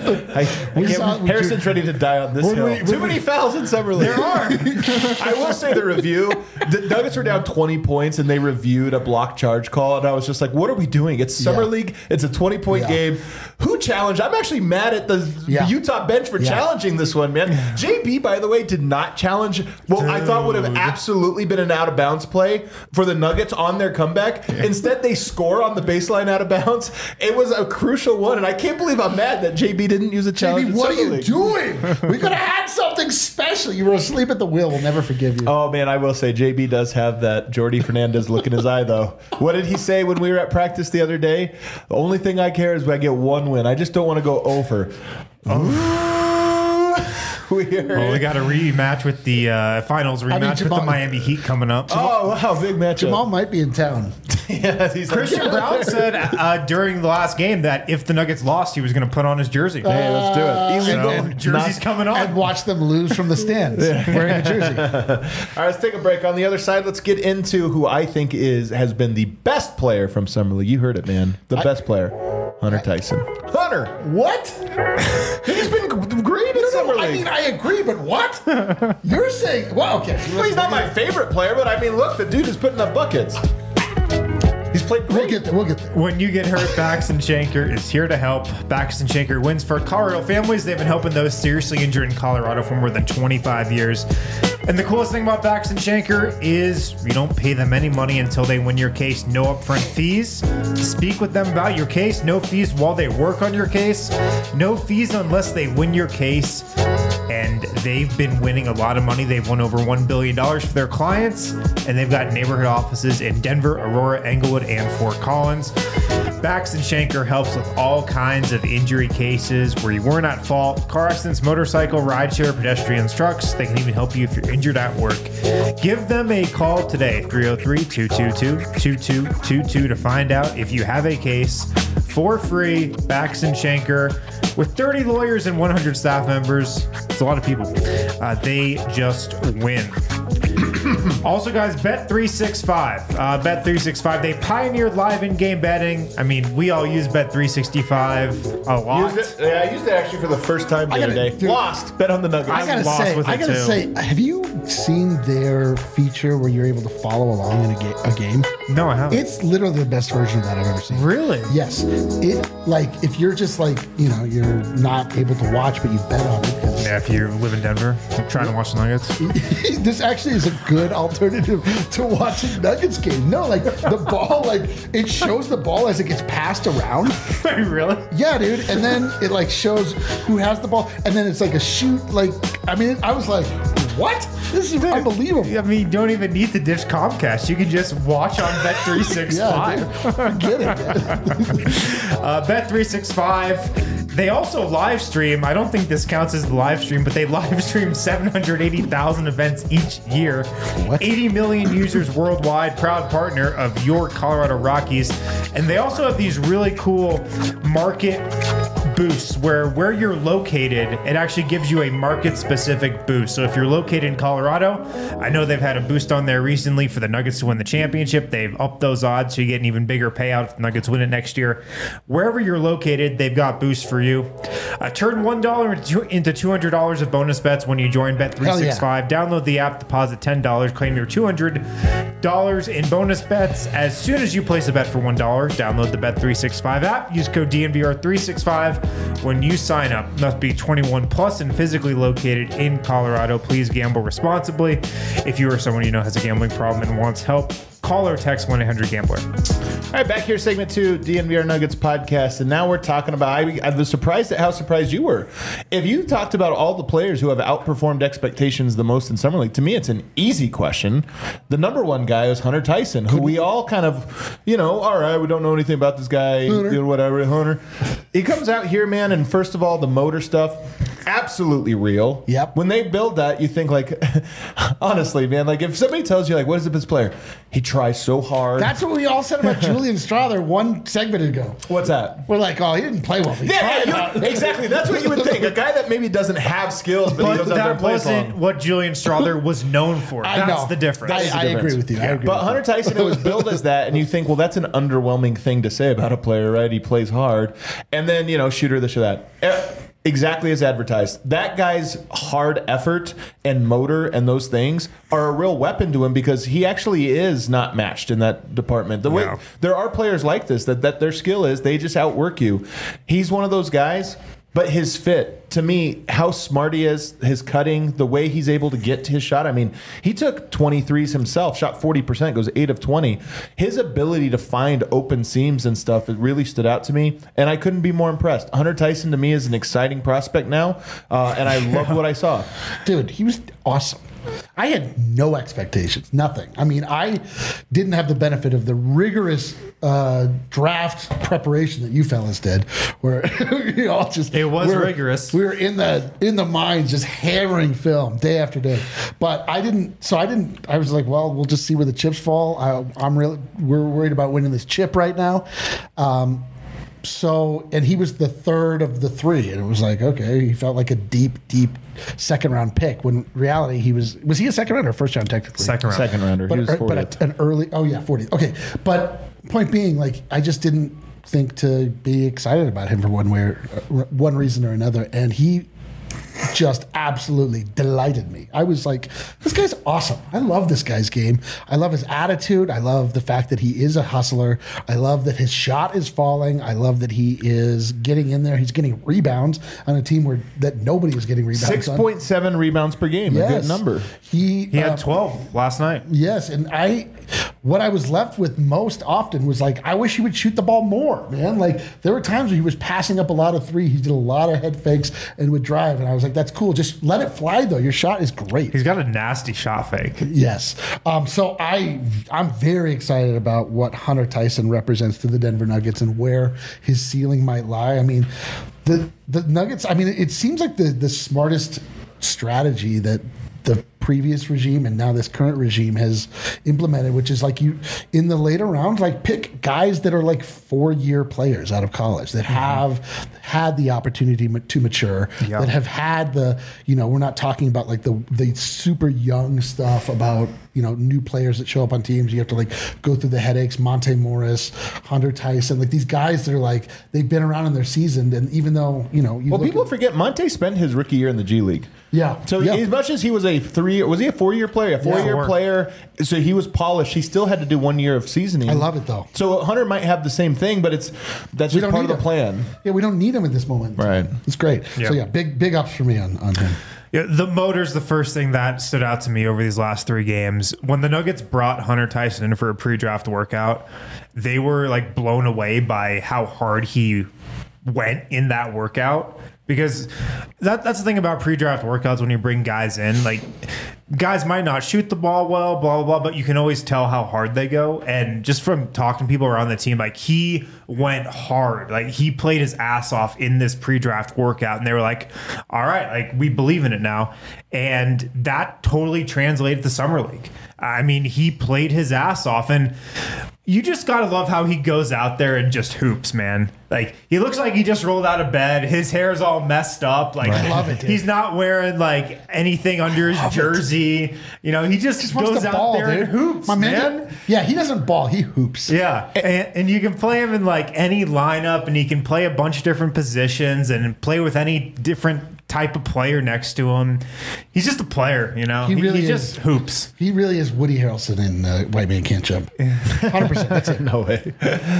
[SPEAKER 1] Harrison's ready to die on this hill. Too many fouls in Summer League.
[SPEAKER 3] There are.
[SPEAKER 1] I will say the review. The Nuggets were down 20 points and they reviewed a block charge call, and I was just like, "What are we doing? It's Summer League. It's a 20-point game. Who challenged? I'm actually mad at the Utah bench for challenging this one, man. JB, by the way, did not challenge what I thought would have absolutely been an out of bounds play for the Nuggets on their comeback. Instead, they score on the baseline out of bounds. It was a crucial one, and I can't believe I'm mad that JB didn't use a challenge.
[SPEAKER 2] JB,
[SPEAKER 1] in
[SPEAKER 2] what are
[SPEAKER 1] Summer
[SPEAKER 2] you
[SPEAKER 1] League.
[SPEAKER 2] doing? We could have had something special. You were asleep at the wheel. We'll never forgive you.
[SPEAKER 1] Oh, man, I will say JB does have that Jordy Fernandez look in his eye, though. What did he say when we were at practice the other day? The only thing I care is when I get one win. I just don't want to go over. We heard.
[SPEAKER 3] Well, we got a rematch with the finals rematch with the
[SPEAKER 2] Jamal-
[SPEAKER 3] Miami Heat coming up.
[SPEAKER 1] Oh, wow, big matchup.
[SPEAKER 2] Jamal might be in town.
[SPEAKER 1] Yeah, he's
[SPEAKER 3] Christian Brown said during the last game that if the Nuggets lost, he was going to put on his jersey.
[SPEAKER 1] Hey, let's do it.
[SPEAKER 3] So, jersey's coming on.
[SPEAKER 2] And watch them lose from the stands wearing a jersey.
[SPEAKER 1] All right, let's take a break. On the other side, let's get into who I think has been the best player from Summer League. You heard it, man. The best player, Hunter Tyson. Hunter,
[SPEAKER 2] What?
[SPEAKER 1] he's been great in Summer
[SPEAKER 2] I
[SPEAKER 1] League.
[SPEAKER 2] mean, I agree, but what? You're saying, well, okay.
[SPEAKER 1] Well, he's not my favorite player, but I mean, look, the dude is putting up buckets. He's played great.
[SPEAKER 2] We'll get there.
[SPEAKER 3] When you get hurt, Baxton Shanker is here to help. Baxton Shanker wins for Colorado families. They've been helping those seriously injured in Colorado for more than 25 years. And the coolest thing about Baxton Shanker is you don't pay them any money until they win your case. No upfront fees. Speak with them about your case. No fees while they work on your case. No fees unless they win your case. And they've been winning a lot of money. They've won over $1 billion for their clients. And they've got neighborhood offices in Denver, Aurora, Englewood, and Fort Collins. Baxton Shanker helps with all kinds of injury cases where you weren't at fault. Car accidents, motorcycle, rideshare, pedestrians, trucks. They can even help you if you're injured at work. Give them a call today, 303-222-2222 to find out if you have a case for free. Baxton Shanker with 30 lawyers and 100 staff members. It's a lot of people. They just win. Also, guys, Bet365. Bet365, they pioneered live in-game betting. I mean, we all use Bet365 a lot.
[SPEAKER 1] I used it actually for the first time the other day.
[SPEAKER 2] dude,
[SPEAKER 1] Lost. Bet on the Nuggets.
[SPEAKER 2] I gotta
[SPEAKER 3] lost
[SPEAKER 2] say,
[SPEAKER 3] with it, too.
[SPEAKER 2] have you seen their feature where you're able to follow along in a game?
[SPEAKER 3] No, I haven't.
[SPEAKER 2] It's literally the best version of that I've ever seen.
[SPEAKER 3] Really?
[SPEAKER 2] Yes. It, like, if you're just like, you're not able to watch, but you bet on it. 'cause
[SPEAKER 3] Yeah, if you live in Denver, trying to watch the Nuggets.
[SPEAKER 2] this actually is a good alternative to watching Nuggets game. No, like the ball, like it shows the ball as it gets passed around.
[SPEAKER 3] Really?
[SPEAKER 2] Yeah, dude. And then it like shows who has the ball, and then it's like a shoot. Like, I mean, I was like, what? This is unbelievable.
[SPEAKER 3] I mean, you don't even need to dish Comcast. You can just watch on Bet365.
[SPEAKER 2] Yeah, dude. Forget it.
[SPEAKER 3] Bet365. They also live stream. I don't think this counts as the live stream, but they live stream 780,000 events each year.
[SPEAKER 2] What?
[SPEAKER 3] 80 million users worldwide, proud partner of your Colorado Rockies. And they also have these really cool market boosts where you're located, it actually gives you a market specific boost. So if you're located in Colorado, I know they've had a boost on there recently for the Nuggets to win the championship. They've upped those odds so you get an even bigger payout if the Nuggets win it next year. Wherever you're located, they've got boosts for you. Turn $1 into $200 of bonus bets when you join Bet365. Download the app, deposit $10, claim your $200 in bonus bets as soon as you place a bet for $1. Download the Bet365 app. Use code DNVR365 when you sign up. Must be 21 plus and physically located in Colorado. Please gamble responsibly. If you or someone you know has a gambling problem and wants help, call or text 1-800-GAMBLER.
[SPEAKER 1] All right, back here, segment 2, DNVR Nuggets podcast, and now we're talking about. I was surprised at how surprised you were. If you talked about all the players who have outperformed expectations the most in Summer League, to me, it's an easy question. The number one guy is Hunter Tyson, who we all kind of, all right, we don't know anything about this guy, whatever, Hunter. He comes out here, man, and first of all, the motor stuff, absolutely real.
[SPEAKER 2] Yep.
[SPEAKER 1] When they build that, you think like, honestly, man, like if somebody tells you like, what is the best player? He tries so hard.
[SPEAKER 2] That's what we all said about Julian Strother one segment ago.
[SPEAKER 1] What's that?
[SPEAKER 2] We're like, oh, he didn't play well. He tried hard.
[SPEAKER 1] Exactly. That's what you would think. A guy that maybe doesn't have skills, but he goes out there and
[SPEAKER 3] that
[SPEAKER 1] plays
[SPEAKER 3] wasn't
[SPEAKER 1] long.
[SPEAKER 3] what Julian Strother was known for.
[SPEAKER 2] I
[SPEAKER 3] That's
[SPEAKER 2] know.
[SPEAKER 3] the difference.
[SPEAKER 2] I agree with you. I agree
[SPEAKER 1] But
[SPEAKER 2] with
[SPEAKER 1] Hunter Tyson, it was billed as that, and you think, well, that's an underwhelming thing to say about a player, right? He plays hard. And then, shooter, this or that. Exactly as advertised. That guy's hard effort and motor and those things are a real weapon to him because he actually is not matched in that department. The way there are players like this that their skill is they just outwork you. He's one of those guys. But his fit, to me, how smart he is, his cutting, the way he's able to get to his shot. I mean, he took 23s himself, shot 40%, goes 8 of 20. His ability to find open seams and stuff, it really stood out to me, and I couldn't be more impressed. Hunter Tyson, to me, is an exciting prospect now, and I loved what I saw.
[SPEAKER 2] Dude, he was awesome. I had no expectations, nothing. I mean, I didn't have the benefit of the rigorous draft preparation that you fellas did, where you all just
[SPEAKER 3] It was rigorous.
[SPEAKER 2] We were in the mines just hammering film day after day. But I didn't. So I didn't. I was like, well, we'll just see where the chips fall. We're worried about winning this chip right now. And he was the third of the three, and it was like, okay, he felt like a deep second round pick. When in reality, he was he a second rounder or first round technically?
[SPEAKER 3] Second
[SPEAKER 1] rounder.
[SPEAKER 2] But,
[SPEAKER 1] He was 40th.
[SPEAKER 2] but an early, 40th. Okay, but point being, like, I just didn't think to be excited about him for one reason or another, and he just absolutely delighted me. I was like, this guy's awesome. I love this guy's game. I love his attitude. I love the fact that he is a hustler. I love that his shot is falling. I love that he is getting in there. He's getting rebounds on a team that nobody is getting rebounds on.
[SPEAKER 1] 6.7 rebounds per game.
[SPEAKER 2] Yes.
[SPEAKER 1] A good number.
[SPEAKER 3] He had 12 last night.
[SPEAKER 2] Yes, and what I was left with most often was like, I wish he would shoot the ball more, man. Like, there were times where he was passing up a lot of three. He did a lot of head fakes and would drive, and I was like, that's cool. Just let it fly, though. Your shot is great.
[SPEAKER 3] He's got a nasty shot fake.
[SPEAKER 2] Yes. So I'm very excited about what Hunter Tyson represents to the Denver Nuggets and where his ceiling might lie. I mean, the Nuggets, I mean, it seems like the smartest strategy that the previous regime and now this current regime has implemented, which is like, you in the later rounds, like, pick guys that are like 4-year players out of college that have had the opportunity to mature, that have had we're not talking about like the super young stuff about, new players that show up on teams. You have to like go through the headaches. Monte Morris, Hunter Tyson, like these guys that are like, they've been around in their season. And even though,
[SPEAKER 1] People forget Monte spent his rookie year in the G League.
[SPEAKER 2] Yeah.
[SPEAKER 1] So as much as he was was he a 4-year player? A 4-year player. So he was polished. He still had to do 1 year of seasoning.
[SPEAKER 2] I love it though.
[SPEAKER 1] So Hunter might have the same thing, but that's just part of the plan.
[SPEAKER 2] Yeah, we don't need him at this moment.
[SPEAKER 1] Right.
[SPEAKER 2] It's great.
[SPEAKER 3] Yeah.
[SPEAKER 2] So yeah, big ups for me on him.
[SPEAKER 3] Yeah, the motor's the first thing that stood out to me over these last 3 games. When the Nuggets brought Hunter Tyson in for a pre-draft workout, they were like blown away by how hard he went in that workout. Because that's the thing about pre-draft workouts when you bring guys in. Like, guys might not shoot the ball well, blah, blah, blah, but you can always tell how hard they go. And just from talking to people around the team, like, he went hard. Like, he played his ass off in this pre-draft workout. And they were like, all right, like, we believe in it now. And that totally translated to Summer League. I mean, he played his ass off. And you just got to love how he goes out there and just hoops, man. Like, he looks like he just rolled out of bed. His hair's all messed up. Like,
[SPEAKER 2] I love it, dude.
[SPEAKER 3] He's not wearing like anything under his jersey. He just goes out there and hoops, man.
[SPEAKER 2] Yeah, he doesn't ball. He hoops.
[SPEAKER 3] Yeah, and you can play him in like any lineup, and he can play a bunch of different positions and play with any different type of player next to him. He's just a player,
[SPEAKER 2] He really
[SPEAKER 3] just hoops.
[SPEAKER 2] He really is Woody Harrelson in White Man Can't Jump. 100%. That's it.
[SPEAKER 1] No way.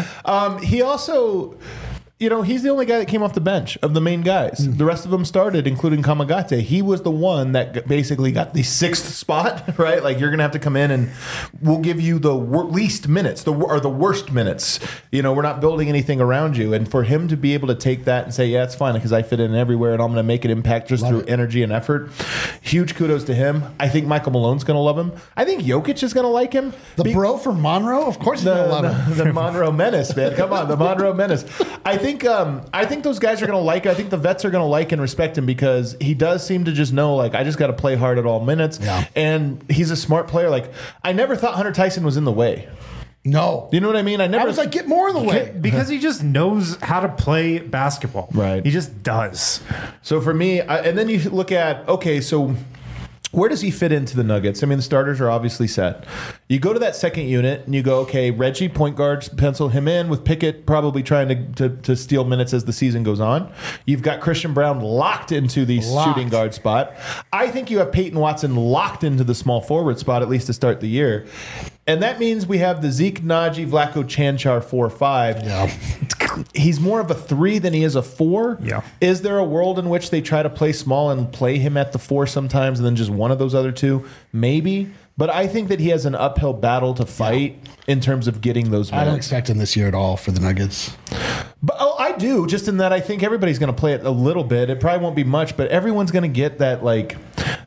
[SPEAKER 1] He also, he's the only guy that came off the bench of the main guys. The rest of them started, including Kamagate. He was the one that basically got the 6th spot, right? Like, you're going to have to come in and we'll give you the least minutes, or the worst minutes. We're not building anything around you. And for him to be able to take that and say, yeah, it's fine because I fit in everywhere and I'm going to make an impact just through energy and effort. Huge kudos to him. I think Michael Malone's going to love him. I think Jokic is going to like him.
[SPEAKER 2] The bro from Monroe? Of course he's going to love him.
[SPEAKER 1] The Monroe Menace, man. Come on, the Monroe Menace. I think those guys are going to like it. I think the vets are going to like and respect him because he does seem to just know, like, I just got to play hard at all minutes.
[SPEAKER 2] Yeah.
[SPEAKER 1] And he's a smart player. Like, I never thought Hunter Tyson was in the way.
[SPEAKER 2] No.
[SPEAKER 1] You know what I mean?
[SPEAKER 2] I was like, get more in the way.
[SPEAKER 3] Because he just knows how to play basketball.
[SPEAKER 1] Right.
[SPEAKER 3] He just does.
[SPEAKER 1] So for me, and then you look at, okay, so where does he fit into the Nuggets? I mean, the starters are obviously set. You go to that second unit and you go, okay, Reggie, point guards, pencil him in with Pickett probably trying to steal minutes as the season goes on. You've got Christian Brown locked into the shooting guard spot. I think you have Peyton Watson locked into the small forward spot, at least to start the year. And that means we have the Zeke, Najee, Vlatko, Chanchar 4-5.
[SPEAKER 2] Yeah.
[SPEAKER 1] He's more of a 3 than he is a 4.
[SPEAKER 3] Yeah.
[SPEAKER 1] Is there a world in which they try to play small and play him at the 4 sometimes and then just one of those other 2? Maybe. But I think that he has an uphill battle to fight in terms of getting those minutes.
[SPEAKER 2] I don't expect him this year at all for the Nuggets.
[SPEAKER 1] But I do, just in that I think everybody's going to play it a little bit. It probably won't be much, but everyone's going to get that, like,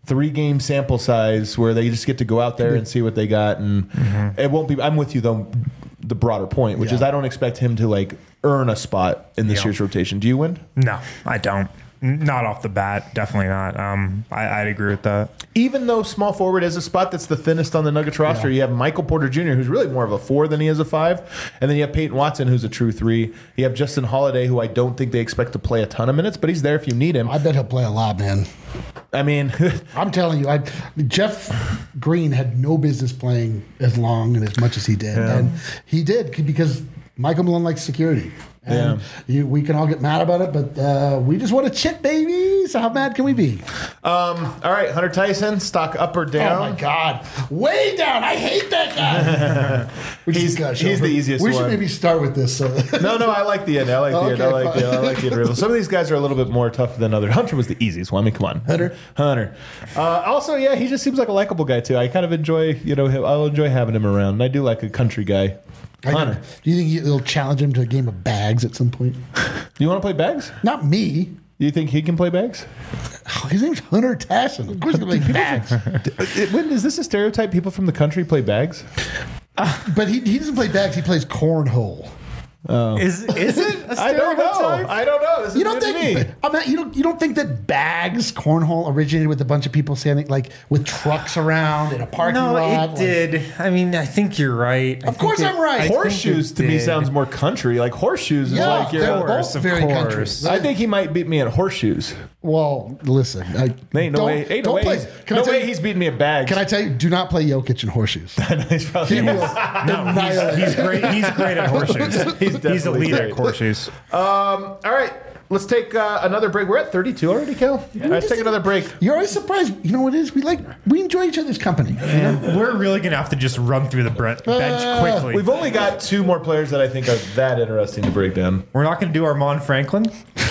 [SPEAKER 1] 3-game sample size where they just get to go out there and see what they got, and it won't be. I'm with you though. The broader point, which is I don't expect him to like earn a spot in this year's rotation. Do you, Wind?
[SPEAKER 3] No, I don't. Not off the bat. Definitely not. I'd agree with that.
[SPEAKER 1] Even though small forward is a spot that's the thinnest on the Nuggets roster, you have Michael Porter Jr., who's really more of a 4 than he is a 5. And then you have Peyton Watson, who's a true 3. You have Justin Holiday, who I don't think they expect to play a ton of minutes, but he's there if you need him.
[SPEAKER 2] I bet he'll play a lot, man.
[SPEAKER 1] I mean,
[SPEAKER 2] I'm telling you, Jeff Green had no business playing as long and as much as he did. And he did because Michael Malone likes security. And we can all get mad about it, but we just want to chip, baby. So how mad can we be?
[SPEAKER 1] All right, Hunter Tyson, stock up or down?
[SPEAKER 2] Oh, my God. Way down. I hate that guy.
[SPEAKER 1] He's the easiest
[SPEAKER 2] one. We
[SPEAKER 1] one.
[SPEAKER 2] should maybe start with this.
[SPEAKER 1] No, I like the end. I like the end. I like the end. Some of these guys are a little bit more tough than others. Hunter was the easiest one. I mean, come on. Hunter. Also, he just seems like a likable guy, too. I kind of enjoy, him. I'll enjoy having him around. And I do like a country guy. Hunter.
[SPEAKER 2] Do you think you'll challenge him to a game of bags at some point?
[SPEAKER 1] You want to play bags?
[SPEAKER 2] Not me.
[SPEAKER 1] You think he can play bags?
[SPEAKER 2] His name's Hunter Tyson. Of course he can play bags.
[SPEAKER 1] Is this a stereotype? People from the country play bags?
[SPEAKER 2] But he doesn't play bags. He plays cornhole.
[SPEAKER 1] Oh.
[SPEAKER 3] Is it a stereotype?
[SPEAKER 1] I don't know. This is
[SPEAKER 2] You don't think you don't think that bags cornhole originated with a bunch of people standing like with trucks around in a parking lot?
[SPEAKER 3] No, it did. I mean, I think you're right.
[SPEAKER 2] Of course I'm right.
[SPEAKER 1] Horseshoes to me sounds more country. Like horseshoes is like
[SPEAKER 2] they're
[SPEAKER 1] your.
[SPEAKER 2] both very country.
[SPEAKER 1] I think he might beat me at horseshoes.
[SPEAKER 2] Well, listen.
[SPEAKER 1] Ain't no way. Ain't no way. No way he's beating me at bags.
[SPEAKER 2] Can I tell you? Do not play Jokic in horseshoes.
[SPEAKER 1] He's probably
[SPEAKER 3] he's great. He's great at horseshoes. He's elite at horseshoes.
[SPEAKER 1] All right. Let's take another break. We're at 32 already, Kel. Yeah. Let's take another break.
[SPEAKER 2] You're always surprised. You know what it is? We enjoy each other's company.
[SPEAKER 3] We're really gonna have to just run through the bench quickly.
[SPEAKER 1] We've only got 2 more players that I think are that interesting to break down.
[SPEAKER 3] We're not gonna do Armand Franklin.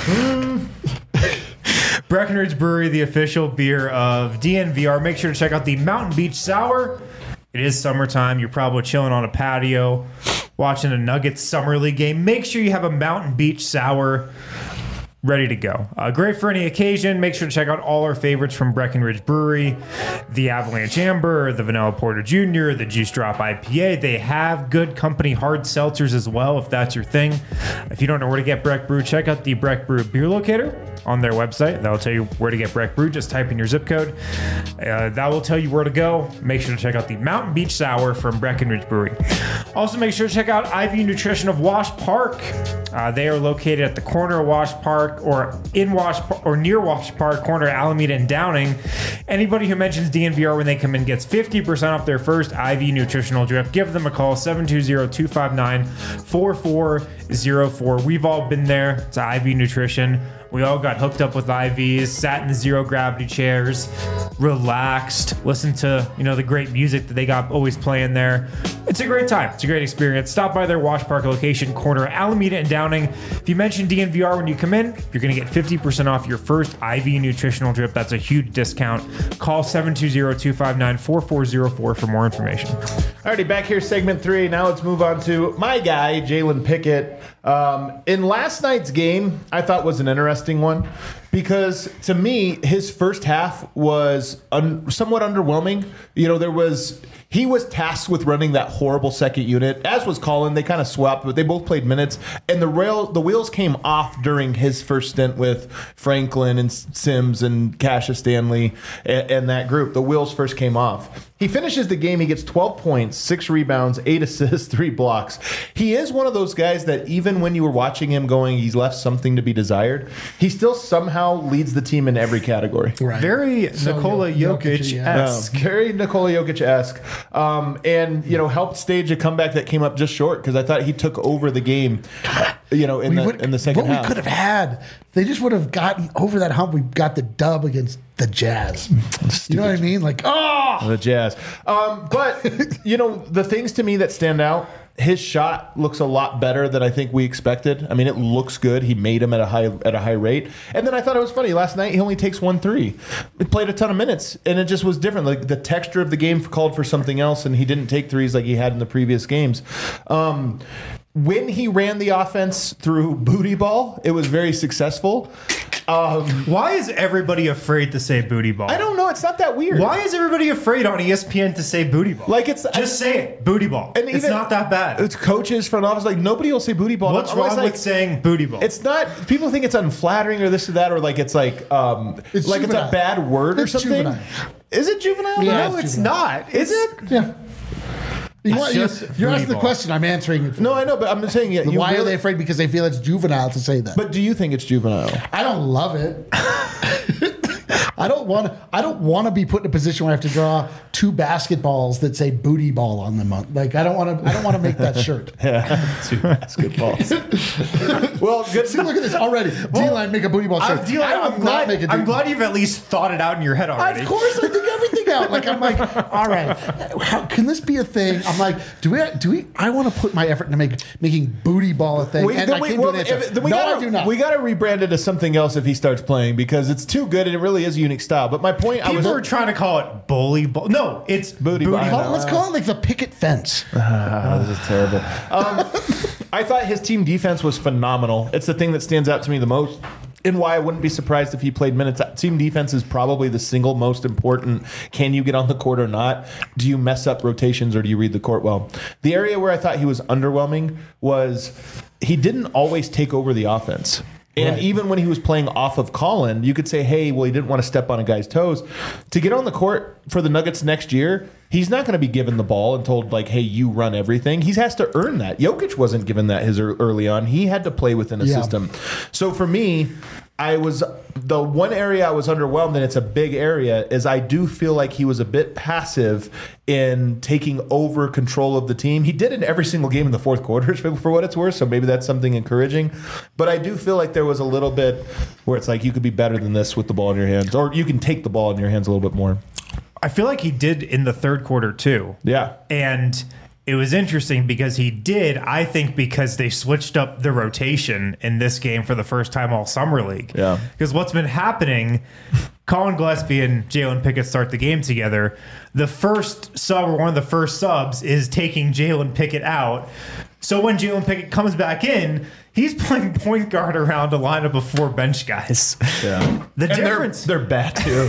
[SPEAKER 3] Breckenridge Brewery, the official beer of DNVR. Make sure to check out the Mountain Beach Sour. It is summertime. You're probably chilling on a patio, watching a Nuggets Summer League game. Make sure you have a Mountain Beach Sour ready to go. Great for any occasion. Make sure to check out all our favorites from Breckenridge Brewery, the Avalanche Amber, the Vanilla Porter Jr., the Juice Drop IPA. They have good company hard seltzers as well, if that's your thing. If you don't know where to get Breck Brew, check out the Breck Brew Beer Locator on their website. That'll tell you where to get Breck Brew. Just type in your zip code. That will tell you where to go. Make sure to check out the Mountain Beach Sour from Breckenridge Brewery. Also, make sure to check out IV Nutrition of Wash Park. They are located at the corner of Wash Park or near Wash Park, corner of Alameda and Downing. Anybody who mentions DNVR when they come in gets 50% off their first IV nutritional drip. Give them a call, 720-259-4404. We've all been there. It's IV Nutrition. We all got hooked up with IVs, sat in zero gravity chairs, relaxed, listened to, the great music that they got always playing there. It's a great time. It's a great experience. Stop by their Wash Park location, corner Alameda and Downing. If you mention DNVR when you come in, you're going to get 50% off your first IV nutritional drip. That's a huge discount. Call 720-259-4404 for more information.
[SPEAKER 1] Alrighty, back here, segment 3. Now let's move on to my guy, Jalen Pickett. In last night's game, I thought was an interesting one because to me, his first half was somewhat underwhelming. He was tasked with running that horrible second unit, as was Colin. They kind of swapped, but they both played minutes. And the wheels came off during his first stint with Franklin and Sims and Cassius Stanley and that group. The wheels first came off. He finishes the game. He gets 12 points, 6 rebounds, 8 assists, 3 blocks. He is one of those guys that even when you were watching him going, he's left something to be desired, he still somehow leads the team in every category.
[SPEAKER 2] Right.
[SPEAKER 3] Very Nikola Jokic-esque.
[SPEAKER 1] Very Nikola Jokic-esque. And helped stage a comeback that came up just short because I thought he took over the game, in the second half.
[SPEAKER 2] What we could have had, they just would have gotten over that hump. We got the dub against the Jazz. You know what I mean?
[SPEAKER 1] The Jazz. But the things to me that stand out, his shot looks a lot better than I think we expected. I mean, it looks good. He made him at a high rate. And then I thought it was funny. Last night, he only takes 1 3. He played a ton of minutes, and it just was different. Like the texture of the game called for something else, and he didn't take threes like he had in the previous games. when he ran the offense through booty ball, it was very successful.
[SPEAKER 3] Why is everybody afraid to say booty ball?
[SPEAKER 1] I don't know. It's not that weird.
[SPEAKER 3] Why is everybody afraid on ESPN to say booty ball?
[SPEAKER 1] Like it's
[SPEAKER 3] just say it, booty ball.
[SPEAKER 1] And
[SPEAKER 3] it's
[SPEAKER 1] even-
[SPEAKER 3] not that bad.
[SPEAKER 1] It's coaches, front office. Like nobody will say booty ball.
[SPEAKER 3] What's
[SPEAKER 1] I'm always
[SPEAKER 3] wrong with saying booty ball?
[SPEAKER 1] It's not. People think it's unflattering or this or that, or like it's like
[SPEAKER 2] It's
[SPEAKER 1] it's a
[SPEAKER 2] juvenile.
[SPEAKER 1] bad word or
[SPEAKER 2] It's
[SPEAKER 1] something.
[SPEAKER 2] juvenile.
[SPEAKER 1] Is it juvenile?
[SPEAKER 2] Yeah,
[SPEAKER 1] No,
[SPEAKER 2] it's
[SPEAKER 1] it's
[SPEAKER 2] juvenile.
[SPEAKER 1] not. Is it?
[SPEAKER 2] Yeah. You're
[SPEAKER 3] just
[SPEAKER 2] asking the
[SPEAKER 3] booty ball.
[SPEAKER 2] question. I'm answering it.
[SPEAKER 1] No, I know, but I'm just saying. Yeah, you
[SPEAKER 2] Why are
[SPEAKER 1] really-
[SPEAKER 2] they afraid? Because they feel it's juvenile to say that.
[SPEAKER 1] But do you think it's juvenile?
[SPEAKER 2] I don't love it. I don't want to be put in a position where I have to draw 2 basketballs that say booty ball on them. Like I don't want to make that shirt.
[SPEAKER 1] Two basketballs. Well, good.
[SPEAKER 2] See, look at this already. D-line make a booty ball shirt.
[SPEAKER 3] I'm glad you've at least thought it out in your head already.
[SPEAKER 2] Of course, I think everything out. Like I'm like, all right, how can this be a thing? I'm like, do we? I want to put my effort into making booty ball a thing. And I came to an answer. No, I do not.
[SPEAKER 1] We got to rebrand it as something else if he starts playing because it's too good and it really is a unique style. But my point,
[SPEAKER 3] People are trying to call it bully ball. No, it's
[SPEAKER 1] Booty ball.
[SPEAKER 2] Let's call it like the picket fence.
[SPEAKER 1] this is terrible. I thought his team defense was phenomenal. It's the thing that stands out to me the most. And why I wouldn't be surprised if he played minutes. Team defense is probably the single most important. Can you get on the court or not? Do you mess up rotations or do you read the court well? The area where I thought he was underwhelming was he didn't always take over the offense. And
[SPEAKER 2] Right.
[SPEAKER 1] even when he was playing off of Colin, you could say, hey, well, he didn't want to step on a guy's toes. To get on the court for the Nuggets next year, he's not going to be given the ball and told, like, hey, you run everything. He has to earn that. Jokic wasn't given that early on. He had to play within a system. So for me, the one area I was underwhelmed, and it's a big area, is I do feel like he was a bit passive in taking over control of the team. He did in every single game in the fourth quarter, for what it's worth, so maybe that's something encouraging. But I do feel like there was a little bit where it's like you could be better than this with the ball in your hands, or you can take the ball in your hands a little bit more.
[SPEAKER 3] I feel like he did in the third quarter too.
[SPEAKER 1] Yeah.
[SPEAKER 3] And it was interesting because he did, I think, because they switched up the rotation in this game for the first time all summer league.
[SPEAKER 1] Yeah.
[SPEAKER 3] Because what's been happening, Colin Gillespie and Jalen Pickett start the game together. The first sub, or one of the first subs, is taking Jalen Pickett out. So when Jalen Pickett comes back in, he's playing point guard around a lineup of 4 bench guys.
[SPEAKER 1] Yeah.
[SPEAKER 3] The
[SPEAKER 1] And
[SPEAKER 3] difference,
[SPEAKER 1] they're bad too.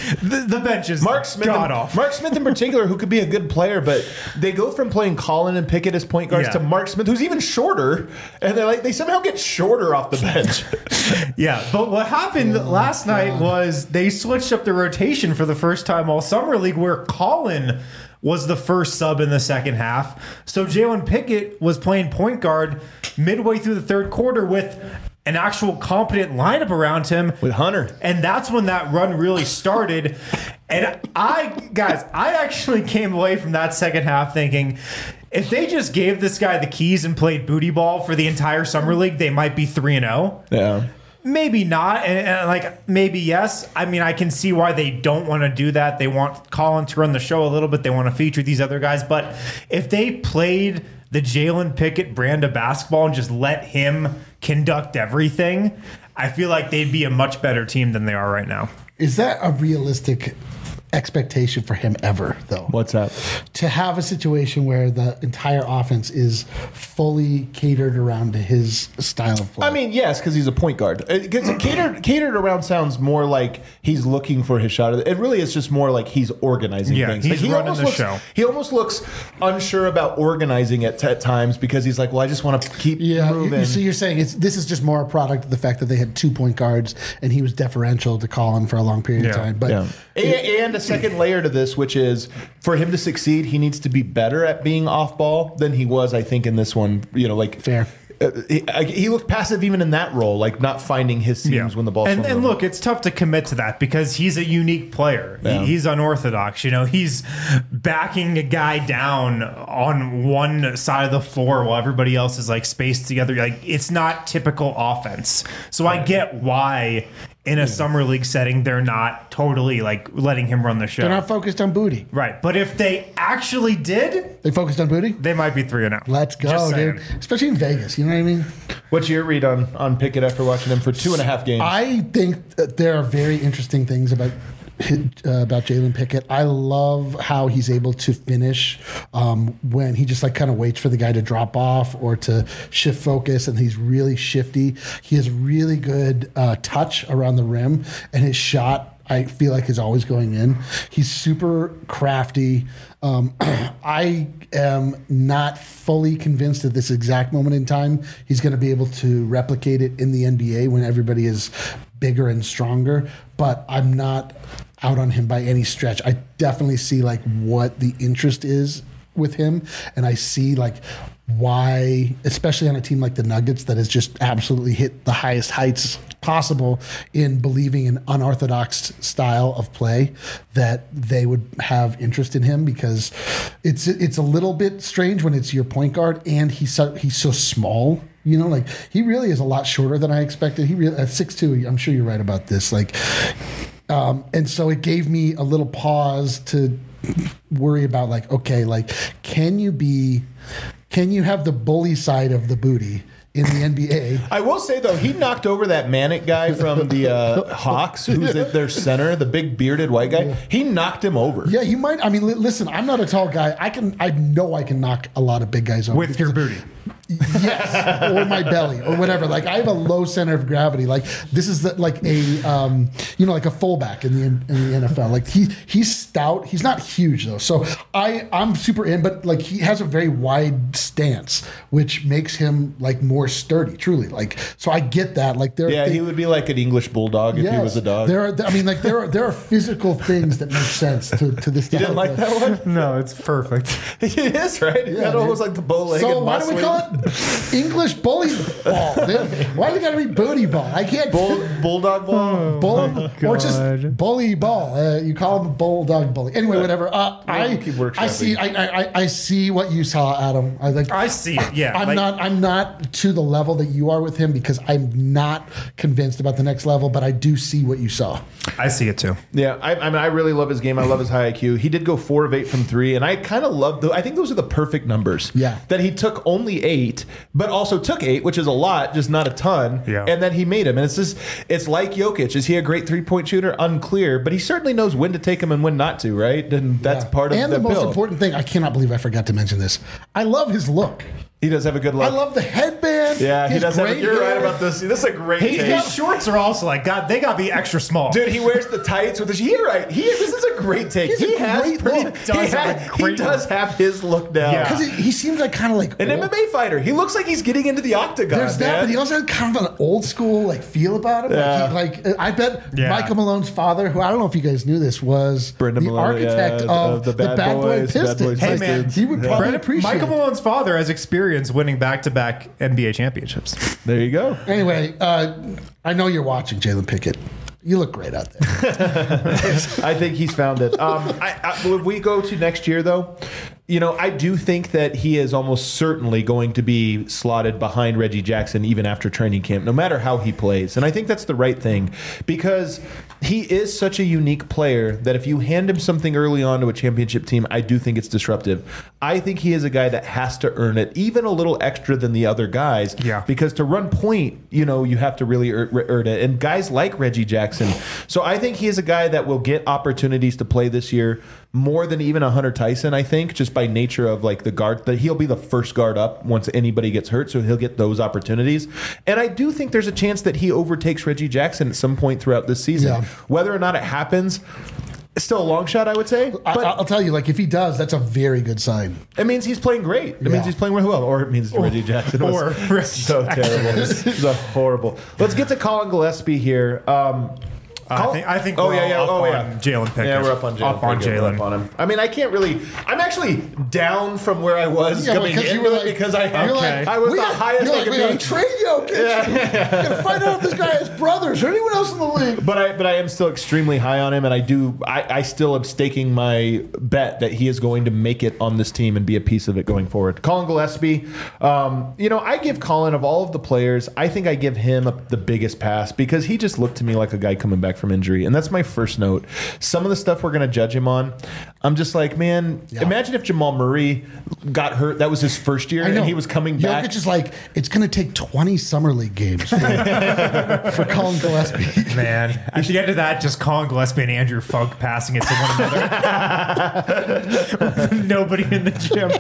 [SPEAKER 3] the bench is
[SPEAKER 1] Mark Smith,
[SPEAKER 3] god off.
[SPEAKER 1] Mark Smith in particular, who could be a good player, but they go from playing Colin and Pickett as point guards
[SPEAKER 3] Yeah.
[SPEAKER 1] to Mark Smith, who's even shorter, and they somehow get shorter off the bench.
[SPEAKER 3] Yeah, but what happened last night was they switched up the rotation for the first time all summer league, where Colin was the first sub in the second half. So Jalen Pickett was playing point guard midway through the third quarter with an actual competent lineup around him.
[SPEAKER 1] With Hunter.
[SPEAKER 3] And that's when that run really started. And I actually came away from that second half thinking, if they just gave this guy the keys and played booty ball for the entire summer league, they might be 3-0.
[SPEAKER 1] Yeah.
[SPEAKER 3] Maybe not, and like maybe yes. I mean, I can see why they don't want to do that. They want Colin to run the show a little bit. They want to feature these other guys. But if they played the Jalen Pickett brand of basketball and just let him conduct everything, I feel like they'd be a much better team than they are right now.
[SPEAKER 2] Is that a realistic expectation for him ever, though?
[SPEAKER 1] What's that?
[SPEAKER 2] To have a situation where the entire offense is fully catered around to his style of play.
[SPEAKER 1] I mean, yes, because he's a point guard. Because catered around sounds more like he's looking for his shot. It really is just more like he's organizing things.
[SPEAKER 3] He's
[SPEAKER 1] Like,
[SPEAKER 3] running
[SPEAKER 1] almost
[SPEAKER 3] the
[SPEAKER 1] looks,
[SPEAKER 3] show.
[SPEAKER 1] He almost looks unsure about organizing it at times because he's like, well, I just want to keep moving.
[SPEAKER 2] So you're saying this is just more a product of the fact that they had 2 point guards and he was deferential to Colin for a long period of time. But
[SPEAKER 1] And a second layer to this, which is for him to succeed, he needs to be better at being off ball than he was, I think, in this one.
[SPEAKER 2] fair.
[SPEAKER 1] He looked passive even in that role, like not finding his seams when the ball.
[SPEAKER 3] And look, it's tough to commit to that because he's a unique player.
[SPEAKER 1] Yeah.
[SPEAKER 3] He's unorthodox. You know, he's backing a guy down on one side of the floor while everybody else is like spaced together. Like it's not typical offense. So I get why in a summer league setting they're not totally like letting him run the show.
[SPEAKER 2] They're not focused on booty.
[SPEAKER 3] Right, but if they actually did,
[SPEAKER 2] They focused on booty?
[SPEAKER 3] they might be 3-0.
[SPEAKER 2] Let's go, dude. Especially in Vegas. You know what I mean?
[SPEAKER 1] What's your read on Pickett after watching him for 2.5 games?
[SPEAKER 2] I think that there are very interesting things about about Jalen Pickett. I love how he's able to finish when he just like kind of waits for the guy to drop off or to shift focus, and he's really shifty. He has really good touch around the rim, and his shot, I feel like, is always going in. He's super crafty. I am not fully convinced at this exact moment in time he's going to be able to replicate it in the NBA when everybody is bigger and stronger, but I'm not out on him by any stretch. I definitely see like what the interest is with him, and I see like why, especially on a team like the Nuggets that has just absolutely hit the highest heights possible in believing in unorthodox style of play, that they would have interest in him, because it's a little bit strange when it's your point guard and he's so small. You know, like he really is a lot shorter than I expected. He really at 6'2". I'm sure you're right about this. Like, and so it gave me a little pause to worry about like, okay, like can you have the bully side of the booty in the NBA?
[SPEAKER 1] I will say though, he knocked over that Manic guy from the Hawks, who's at their center, the big bearded white guy. He knocked him over.
[SPEAKER 2] Yeah, he might. I mean, listen, I'm not a tall guy. I know I can knock a lot of big guys over
[SPEAKER 3] with your booty.
[SPEAKER 2] Yes, or my belly, or whatever. Like I have a low center of gravity. Like this is like a like a fullback in the NFL. Like he's stout. He's not huge though. So I'm super in, but like he has a very wide stance, which makes him like more sturdy. Truly, like so I get that. Like
[SPEAKER 1] he would be like an English bulldog if he was a dog.
[SPEAKER 2] There are physical things that make sense to this.
[SPEAKER 1] You didn't like that one?
[SPEAKER 3] No, it's perfect.
[SPEAKER 1] It is, right? It got almost like the bow-legged.
[SPEAKER 2] So why do we call it English bully ball? Why do we got to be booty ball? I can't.
[SPEAKER 1] Bulldog ball?
[SPEAKER 2] Or just bully ball. You call him a bulldog bully. Anyway, whatever. I see what you saw, Adam.
[SPEAKER 3] I see it. Yeah,
[SPEAKER 2] I'm not to the level that you are with him, because I'm not convinced about the next level, but I do see what you saw.
[SPEAKER 3] I see it too.
[SPEAKER 1] Yeah, I mean, I really love his game. I love his high IQ. He did go 4 of 8 from 3, and I kind of love I think those are the perfect numbers.
[SPEAKER 2] Yeah.
[SPEAKER 1] That he took only 8, but also took 8, which is a lot, just not a ton.
[SPEAKER 3] Yeah.
[SPEAKER 1] And then he made him. And it's like Jokic. Is he a great 3-point shooter? Unclear, but he certainly knows when to take him and when not to, right? And that's part of the
[SPEAKER 2] And the most
[SPEAKER 1] build.
[SPEAKER 2] important thing, I cannot believe I forgot to mention this. I love his look.
[SPEAKER 1] He does have a good look.
[SPEAKER 2] I love the headband.
[SPEAKER 1] Yeah, he does have. You're right about this. This is a great take.
[SPEAKER 3] His shorts are also like, God, they got to be extra small.
[SPEAKER 1] Dude, he wears the tights with the. You're right. This is a great take. He does have his look down.
[SPEAKER 3] Yeah.
[SPEAKER 2] Because he seems like kind of like
[SPEAKER 1] an MMA fighter. He looks like he's getting into the octagon.
[SPEAKER 2] There's that, but he also has kind of an old school like feel about him.
[SPEAKER 1] Yeah.
[SPEAKER 2] I bet Michael Malone's father, who I don't know if you guys knew this, was
[SPEAKER 1] Brendan
[SPEAKER 2] the
[SPEAKER 1] Malone,
[SPEAKER 2] architect of the Bad Boy Pistons.
[SPEAKER 3] Hey man,
[SPEAKER 2] he would probably appreciate
[SPEAKER 3] Michael
[SPEAKER 2] it.
[SPEAKER 3] Malone's father has experience winning back-to-back NBA championships.
[SPEAKER 1] There you go.
[SPEAKER 2] Anyway, I know you're watching, Jalen Pickett. You look great out there.
[SPEAKER 1] I think he's found it. If we go to next year, though, I do think that he is almost certainly going to be slotted behind Reggie Jackson even after training camp, no matter how he plays. And I think that's the right thing, because he is such a unique player that if you hand him something early on to a championship team, I do think it's disruptive. I think he is a guy that has to earn it, even a little extra than the other guys.
[SPEAKER 3] Yeah.
[SPEAKER 1] Because to run point, you have to really earn it. And guys like Reggie Jackson. So I think he is a guy that will get opportunities to play this year more than even a Hunter Tyson, I think, just by nature of like the guard, that he'll be the first guard up once anybody gets hurt, so he'll get those opportunities. And I do think there's a chance that he overtakes Reggie Jackson at some point throughout this season.
[SPEAKER 2] Yeah.
[SPEAKER 1] Whether or not it happens, it's still a long shot, I would say. But
[SPEAKER 2] I'll tell you, like if he does, that's a very good sign.
[SPEAKER 1] it means he's playing great. It means he's playing really well. Or it means Reggie Jackson was so terrible. It's horrible. Let's get to Colin Gillespie here.
[SPEAKER 3] I think we're on Jalen Pickett.
[SPEAKER 1] Yeah, we're up on Jalen.
[SPEAKER 3] Up on Jalen.
[SPEAKER 1] Up on him. I mean, I can't really. I'm actually down from where I was coming in because I was the highest I could be.
[SPEAKER 2] Trade Jokic. Yeah. Gotta find out if this guy has brothers or anyone else in the league.
[SPEAKER 1] But I am still extremely high on him, and I still am staking my bet that he is going to make it on this team and be a piece of it going forward. Colin Gillespie, I give Colin, of all of the players, I think I give him the biggest pass because he just looked to me like a guy coming back from injury. And that's my first note. Some of the stuff we're going to judge him on, I'm just like, man, imagine if Jamal Murray got hurt. That was his first year, and he was coming back.
[SPEAKER 2] Jokic is like, it's going to take 20 Summer League games for Colin Gillespie.
[SPEAKER 3] Man, at the end of that, just Colin Gillespie and Andrew Funk passing it to one another. Nobody in the gym.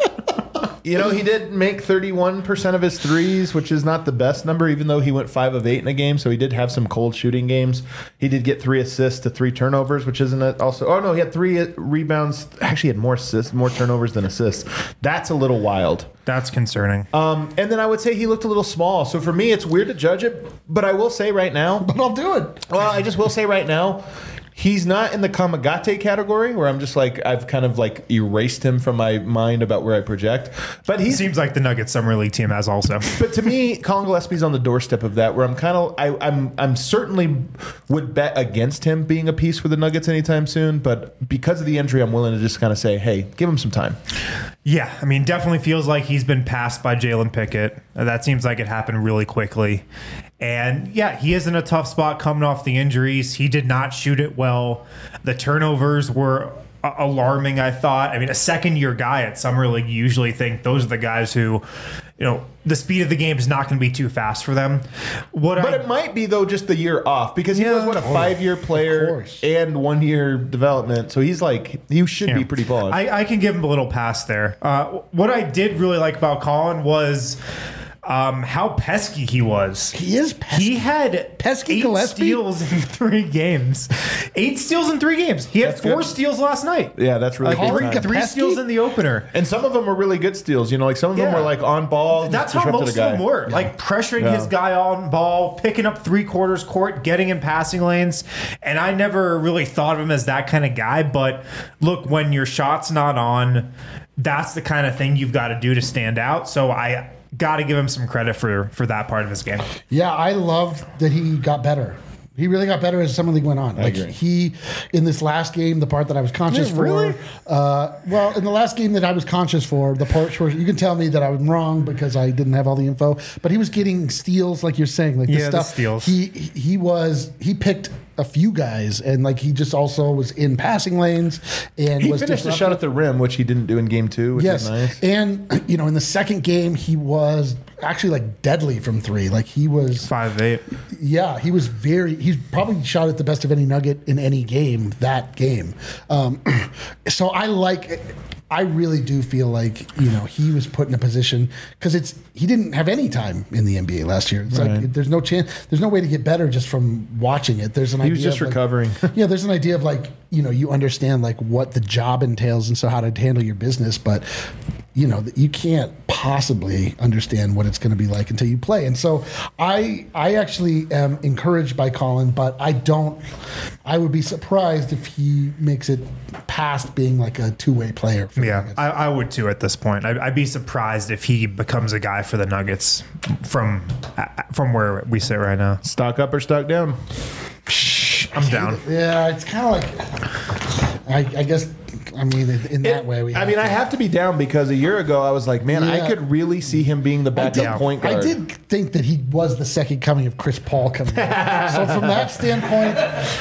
[SPEAKER 1] You know, he did make 31% of his threes, which is not the best number, even though he went 5 of 8 in a game. So he did have some cold shooting games. He did get 3 assists to 3 turnovers, which isn't it also. Oh, no, he had 3 rebounds. Actually, he had more assists, more turnovers than assists. That's a little wild.
[SPEAKER 3] That's concerning.
[SPEAKER 1] And then I would say he looked a little small. So for me, it's weird to judge it, but I will say right now.
[SPEAKER 2] But I'll do it.
[SPEAKER 1] Well, I just will say right now, he's not in the Kamagate category where I'm just like, I've kind of like erased him from my mind about where I project. But he
[SPEAKER 3] seems like the Nuggets Summer League team has also.
[SPEAKER 1] But to me, Colin Gillespie's on the doorstep of that, where I'm kind of, I'm certainly would bet against him being a piece for the Nuggets anytime soon. But because of the injury, I'm willing to just kind of say, hey, give him some time.
[SPEAKER 3] Yeah, I mean, definitely feels like he's been passed by Jalen Pickett. That seems like it happened really quickly. And yeah, he is in a tough spot coming off the injuries. He did not shoot it well. The turnovers were alarming, I thought. I mean, a second-year guy at Summer League, you usually think those are the guys who, you know, the speed of the game is not going to be too fast for them.
[SPEAKER 1] It might be, though, just the year off, because he was, a 5-year player and 1-year development. So he's like, he should be pretty polished.
[SPEAKER 3] I can give him a little pass there. What I did really like about Colin was how pesky he was.
[SPEAKER 2] He is pesky.
[SPEAKER 3] He had
[SPEAKER 2] pesky
[SPEAKER 3] 8
[SPEAKER 2] Gillespie?
[SPEAKER 3] steals in 3 games. 8 steals in 3 games. He had 4 steals last night.
[SPEAKER 1] Yeah, that's really good.
[SPEAKER 3] 3 steals in the opener.
[SPEAKER 1] And some of them were really good steals. You know, like some of them were like on ball.
[SPEAKER 3] That's how most of them were. Yeah. Like pressuring his guy on ball, picking up 3/4 court, getting in passing lanes. And I never really thought of him as that kind of guy. But look, when your shot's not on, that's the kind of thing you've got to do to stand out. So I got to give him some credit for that part of his game.
[SPEAKER 2] Yeah, I loved that he got better. He really got better as Summer League went on. Like he, in this last game, the part that I was conscious for.
[SPEAKER 3] Really?
[SPEAKER 2] Well, in the last game that I was conscious for, the parts where you can tell me that I was wrong because I didn't have all the info. But he was getting steals, like you're saying, like the stuff.
[SPEAKER 3] The steals.
[SPEAKER 2] He picked a few guys, and like he just also was in passing lanes, and
[SPEAKER 1] he
[SPEAKER 2] was
[SPEAKER 1] finished the shot at the rim, which he didn't do in game 2, which is nice.
[SPEAKER 2] And you know, in the second game, he was actually like deadly from 3. Like he was
[SPEAKER 3] 5-8.
[SPEAKER 2] Yeah, he was he's probably shot at the best of any Nugget in any game that game. So I really do feel like, you know, he was put in a position because he didn't have any time in the NBA last year. It's like there's no chance, there's no way to get better just from watching it. There's an idea.
[SPEAKER 1] He was just recovering.
[SPEAKER 2] Yeah, there's an idea of like, you know, you understand like what the job entails and so how to handle your business, but you know, you can't possibly understand what it's going to be like until you play. And so I actually am encouraged by Colin, but I would be surprised if he makes it past being like a 2-way player.
[SPEAKER 3] Yeah, I would too at this point. I'd be surprised if he becomes a guy for the Nuggets from where we sit right now.
[SPEAKER 1] Stock up or stock down?
[SPEAKER 3] I'm down.
[SPEAKER 2] Yeah, it's kind of like, I guess, I mean, in that way,
[SPEAKER 1] I have to be down because a year ago I was like, man, I could really see him being the backup point guard.
[SPEAKER 2] I did think that he was the second coming of Chris Paul coming in. So from that standpoint,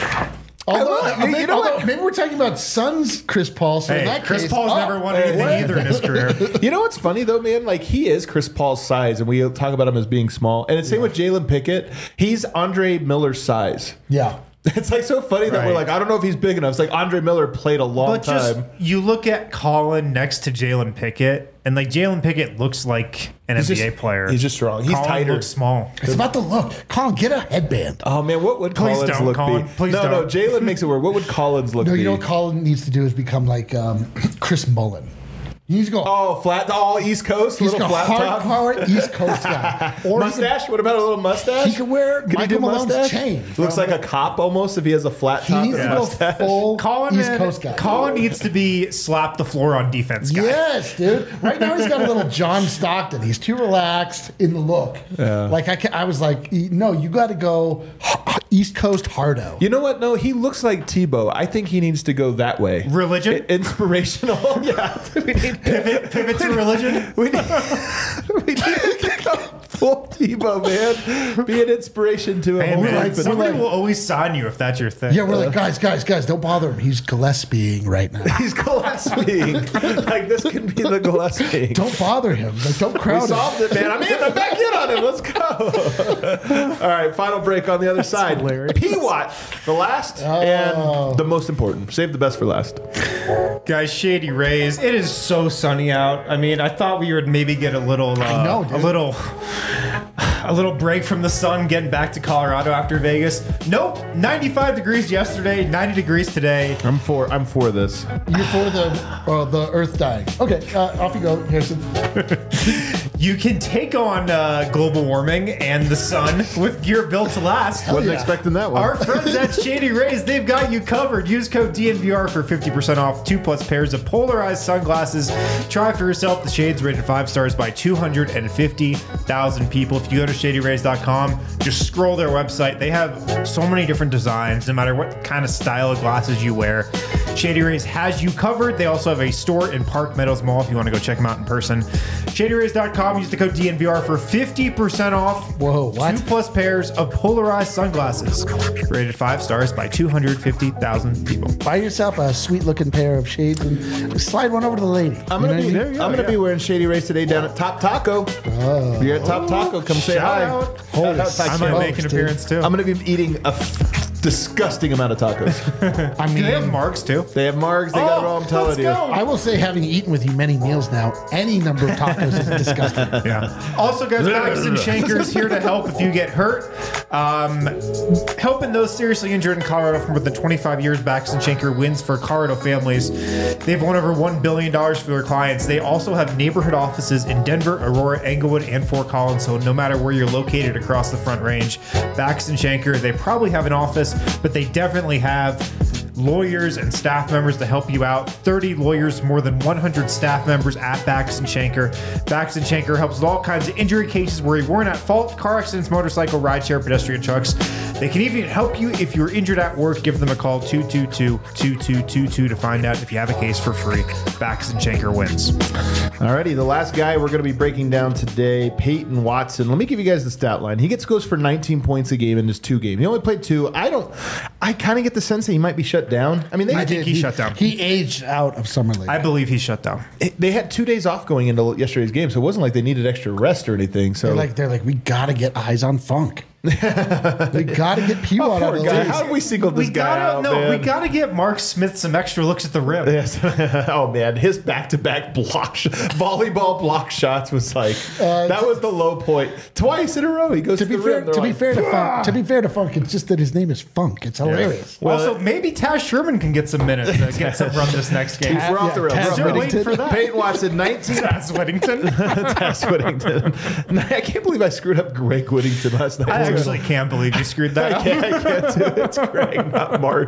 [SPEAKER 2] maybe we're talking about Suns Chris Paul. So in that
[SPEAKER 3] Chris
[SPEAKER 2] case,
[SPEAKER 3] Paul's never won anything either in his career.
[SPEAKER 1] You know what's funny though, man? Like he is Chris Paul's size, and we talk about him as being small. And it's same with Jalen Pickett. He's Andre Miller's size.
[SPEAKER 2] Yeah.
[SPEAKER 1] It's like so funny that we're like, I don't know if he's big enough. It's like Andre Miller played a long time.
[SPEAKER 3] You look at Colin next to Jalen Pickett, and like Jalen Pickett looks like an NBA player.
[SPEAKER 1] He's just strong. He's
[SPEAKER 3] Colin
[SPEAKER 1] tighter.
[SPEAKER 3] Looks small.
[SPEAKER 2] It's about the look. Colin, get a headband.
[SPEAKER 1] Oh man, what would
[SPEAKER 3] Please
[SPEAKER 1] Collins
[SPEAKER 3] don't,
[SPEAKER 1] look
[SPEAKER 3] Colin.
[SPEAKER 1] be?
[SPEAKER 3] Please
[SPEAKER 1] no,
[SPEAKER 3] don't.
[SPEAKER 1] Jalen makes it work. What would Collins look be?
[SPEAKER 2] No, you know what Colin needs to do is become like Chris Mullen. He needs to go.
[SPEAKER 1] Oh, flat, all East Coast,
[SPEAKER 2] He's
[SPEAKER 1] little
[SPEAKER 2] a
[SPEAKER 1] flat top.
[SPEAKER 2] hardcore East Coast guy. Or
[SPEAKER 1] mustache? What about a little mustache?
[SPEAKER 2] He could wear
[SPEAKER 1] Could he
[SPEAKER 2] Michael
[SPEAKER 1] do
[SPEAKER 2] Malone's
[SPEAKER 1] mustache?
[SPEAKER 2] chain.
[SPEAKER 1] Looks like a cop almost if he has a flat
[SPEAKER 2] He
[SPEAKER 1] top
[SPEAKER 2] needs
[SPEAKER 1] and
[SPEAKER 2] to
[SPEAKER 1] a
[SPEAKER 2] go
[SPEAKER 1] mustache.
[SPEAKER 2] full
[SPEAKER 3] Colin,
[SPEAKER 2] East Coast guy.
[SPEAKER 3] Colin needs to be slap the floor on defense guy.
[SPEAKER 2] Yes, dude. Right now he's got a little John Stockton. He's too relaxed in the look. Yeah. Like I was like, no, you got to go East Coast hardo.
[SPEAKER 1] You know what? No, he looks like Tebow. I think he needs to go that way.
[SPEAKER 3] Religion?
[SPEAKER 1] Inspirational. Yeah. We need
[SPEAKER 3] Pivot to religion?
[SPEAKER 1] we need to go Pull Tebow, man. Be an inspiration to a
[SPEAKER 3] Hey,
[SPEAKER 1] whole
[SPEAKER 3] man,
[SPEAKER 1] group.
[SPEAKER 3] somebody will always sign you if that's your thing.
[SPEAKER 2] Yeah, we're like, guys, don't bother him. He's Gillespieing right now.
[SPEAKER 1] He's Gillespieing. Like, this can be the Gillespieing.
[SPEAKER 2] Don't bother him. Like, don't
[SPEAKER 1] We
[SPEAKER 2] crowd him.
[SPEAKER 1] solved it, man. I'm back in on him. Let's go. All right, final break on the other side.
[SPEAKER 3] hilarious.
[SPEAKER 1] P-Watt, the last and the most important. Save the best for last.
[SPEAKER 3] Guys, Shady Rays, it is so sunny out. I mean, I thought we would maybe get a little,
[SPEAKER 2] I know, dude.
[SPEAKER 3] a little break from the sun, getting back to Colorado after Vegas. Nope, 95 degrees yesterday, 90 degrees today.
[SPEAKER 1] I'm for this.
[SPEAKER 2] You're for the Earth dying. Okay, off you go, Harrison.
[SPEAKER 3] You can take on global warming and the sun with gear built to last.
[SPEAKER 1] Wasn't
[SPEAKER 2] yeah.
[SPEAKER 1] expecting that one.
[SPEAKER 3] Our friends at Shady Rays, they've got you covered. Use code DNVR for 50% off 2+ pairs of polarized sunglasses. Try for yourself the shades rated 5 stars by 250,000 people. If you go to shadyrays.com, just scroll their website. They have so many different designs, no matter what kind of style of glasses you wear. Shady Rays has you covered. They also have a store in Park Meadows Mall if you want to go check them out in person. ShadyRays.com. Use the code DNVR for 50% off.
[SPEAKER 2] Whoa, what?
[SPEAKER 3] 2+ pairs of polarized sunglasses. Rated 5 stars by 250,000 people.
[SPEAKER 2] Buy yourself a sweet-looking pair of shades and slide one over to the lady.
[SPEAKER 1] I'm gonna
[SPEAKER 2] You know
[SPEAKER 1] be
[SPEAKER 2] what I mean?
[SPEAKER 1] I'm gonna be wearing Shady Rays today down at Top Taco.
[SPEAKER 2] Oh.
[SPEAKER 1] If you're at Top Taco, come say
[SPEAKER 3] Shout
[SPEAKER 1] hi.
[SPEAKER 3] out.
[SPEAKER 2] Holy
[SPEAKER 3] I might make an
[SPEAKER 2] dude.
[SPEAKER 3] appearance too.
[SPEAKER 1] I'm gonna be eating a disgusting amount of tacos.
[SPEAKER 2] I
[SPEAKER 3] Do they have
[SPEAKER 2] mean,
[SPEAKER 3] marks too?
[SPEAKER 1] They have margs. They got it all. I'm telling
[SPEAKER 3] let's
[SPEAKER 1] you.
[SPEAKER 3] go.
[SPEAKER 2] I will say, having eaten with you many meals now, any number of tacos is disgusting.
[SPEAKER 3] Yeah. Also, guys, Baxton Shanker is here to help if you get hurt. Helping those seriously injured in Colorado for more than 25 years, Baxton Shanker wins for Colorado families. They've won over $1 billion for their clients. They also have neighborhood offices in Denver, Aurora, Englewood, and Fort Collins. So no matter where you're located across the Front Range, Baxton Shanker, they probably have an office, but they definitely have lawyers and staff members to help you out. 30 lawyers, more than 100 staff members at Baxton Shanker. Baxton Shanker helps with all kinds of injury cases where you weren't at fault: car accidents, motorcycle, rideshare, pedestrian trucks. They can even help you if you're injured at work. Give them a call, 222-2222, to find out if you have a case for free. Baxton Shanker wins.
[SPEAKER 1] Alrighty, the last guy we're going to be breaking down today, Peyton Watson. Let me give you guys the stat line. He goes for 19 points a game in his 2 games. He only played 2. I kind of get the sense that he might be shut down. I mean,
[SPEAKER 3] I think he shut down.
[SPEAKER 2] He aged out of Summer League.
[SPEAKER 3] I believe he's shut down.
[SPEAKER 1] they had 2 days off going into yesterday's game, so it wasn't like they needed extra rest or anything. So
[SPEAKER 2] They're like, we got to get eyes on Funk. We got to get P-Watt out of the
[SPEAKER 1] guy,
[SPEAKER 2] league.
[SPEAKER 1] how have we singled this guy out, man?
[SPEAKER 3] we gotta get Mark Smith some extra looks at the rim.
[SPEAKER 1] Yes. Oh man, his back-to-back volleyball block shots was like that was the low point. Twice in a row, he goes
[SPEAKER 2] To
[SPEAKER 1] to
[SPEAKER 2] be
[SPEAKER 1] the
[SPEAKER 2] fair,
[SPEAKER 1] rim. They're
[SPEAKER 2] to be
[SPEAKER 1] like,
[SPEAKER 2] fair to Funk, it's just that his name is Funk. It's hilarious.
[SPEAKER 3] Also, maybe Taz Sherman can get some minutes to get some run this next game.
[SPEAKER 1] We're off the rails.
[SPEAKER 2] Taz
[SPEAKER 1] We're off the rails.
[SPEAKER 3] waiting for that.
[SPEAKER 1] Peyton Watson, 19.
[SPEAKER 3] Taz Whittington.
[SPEAKER 1] Taz Whittington. I can't believe I screwed up Greg Whittington last night.
[SPEAKER 3] I actually can't believe you screwed that up.
[SPEAKER 1] I can't do it. It's Greg, not Mark.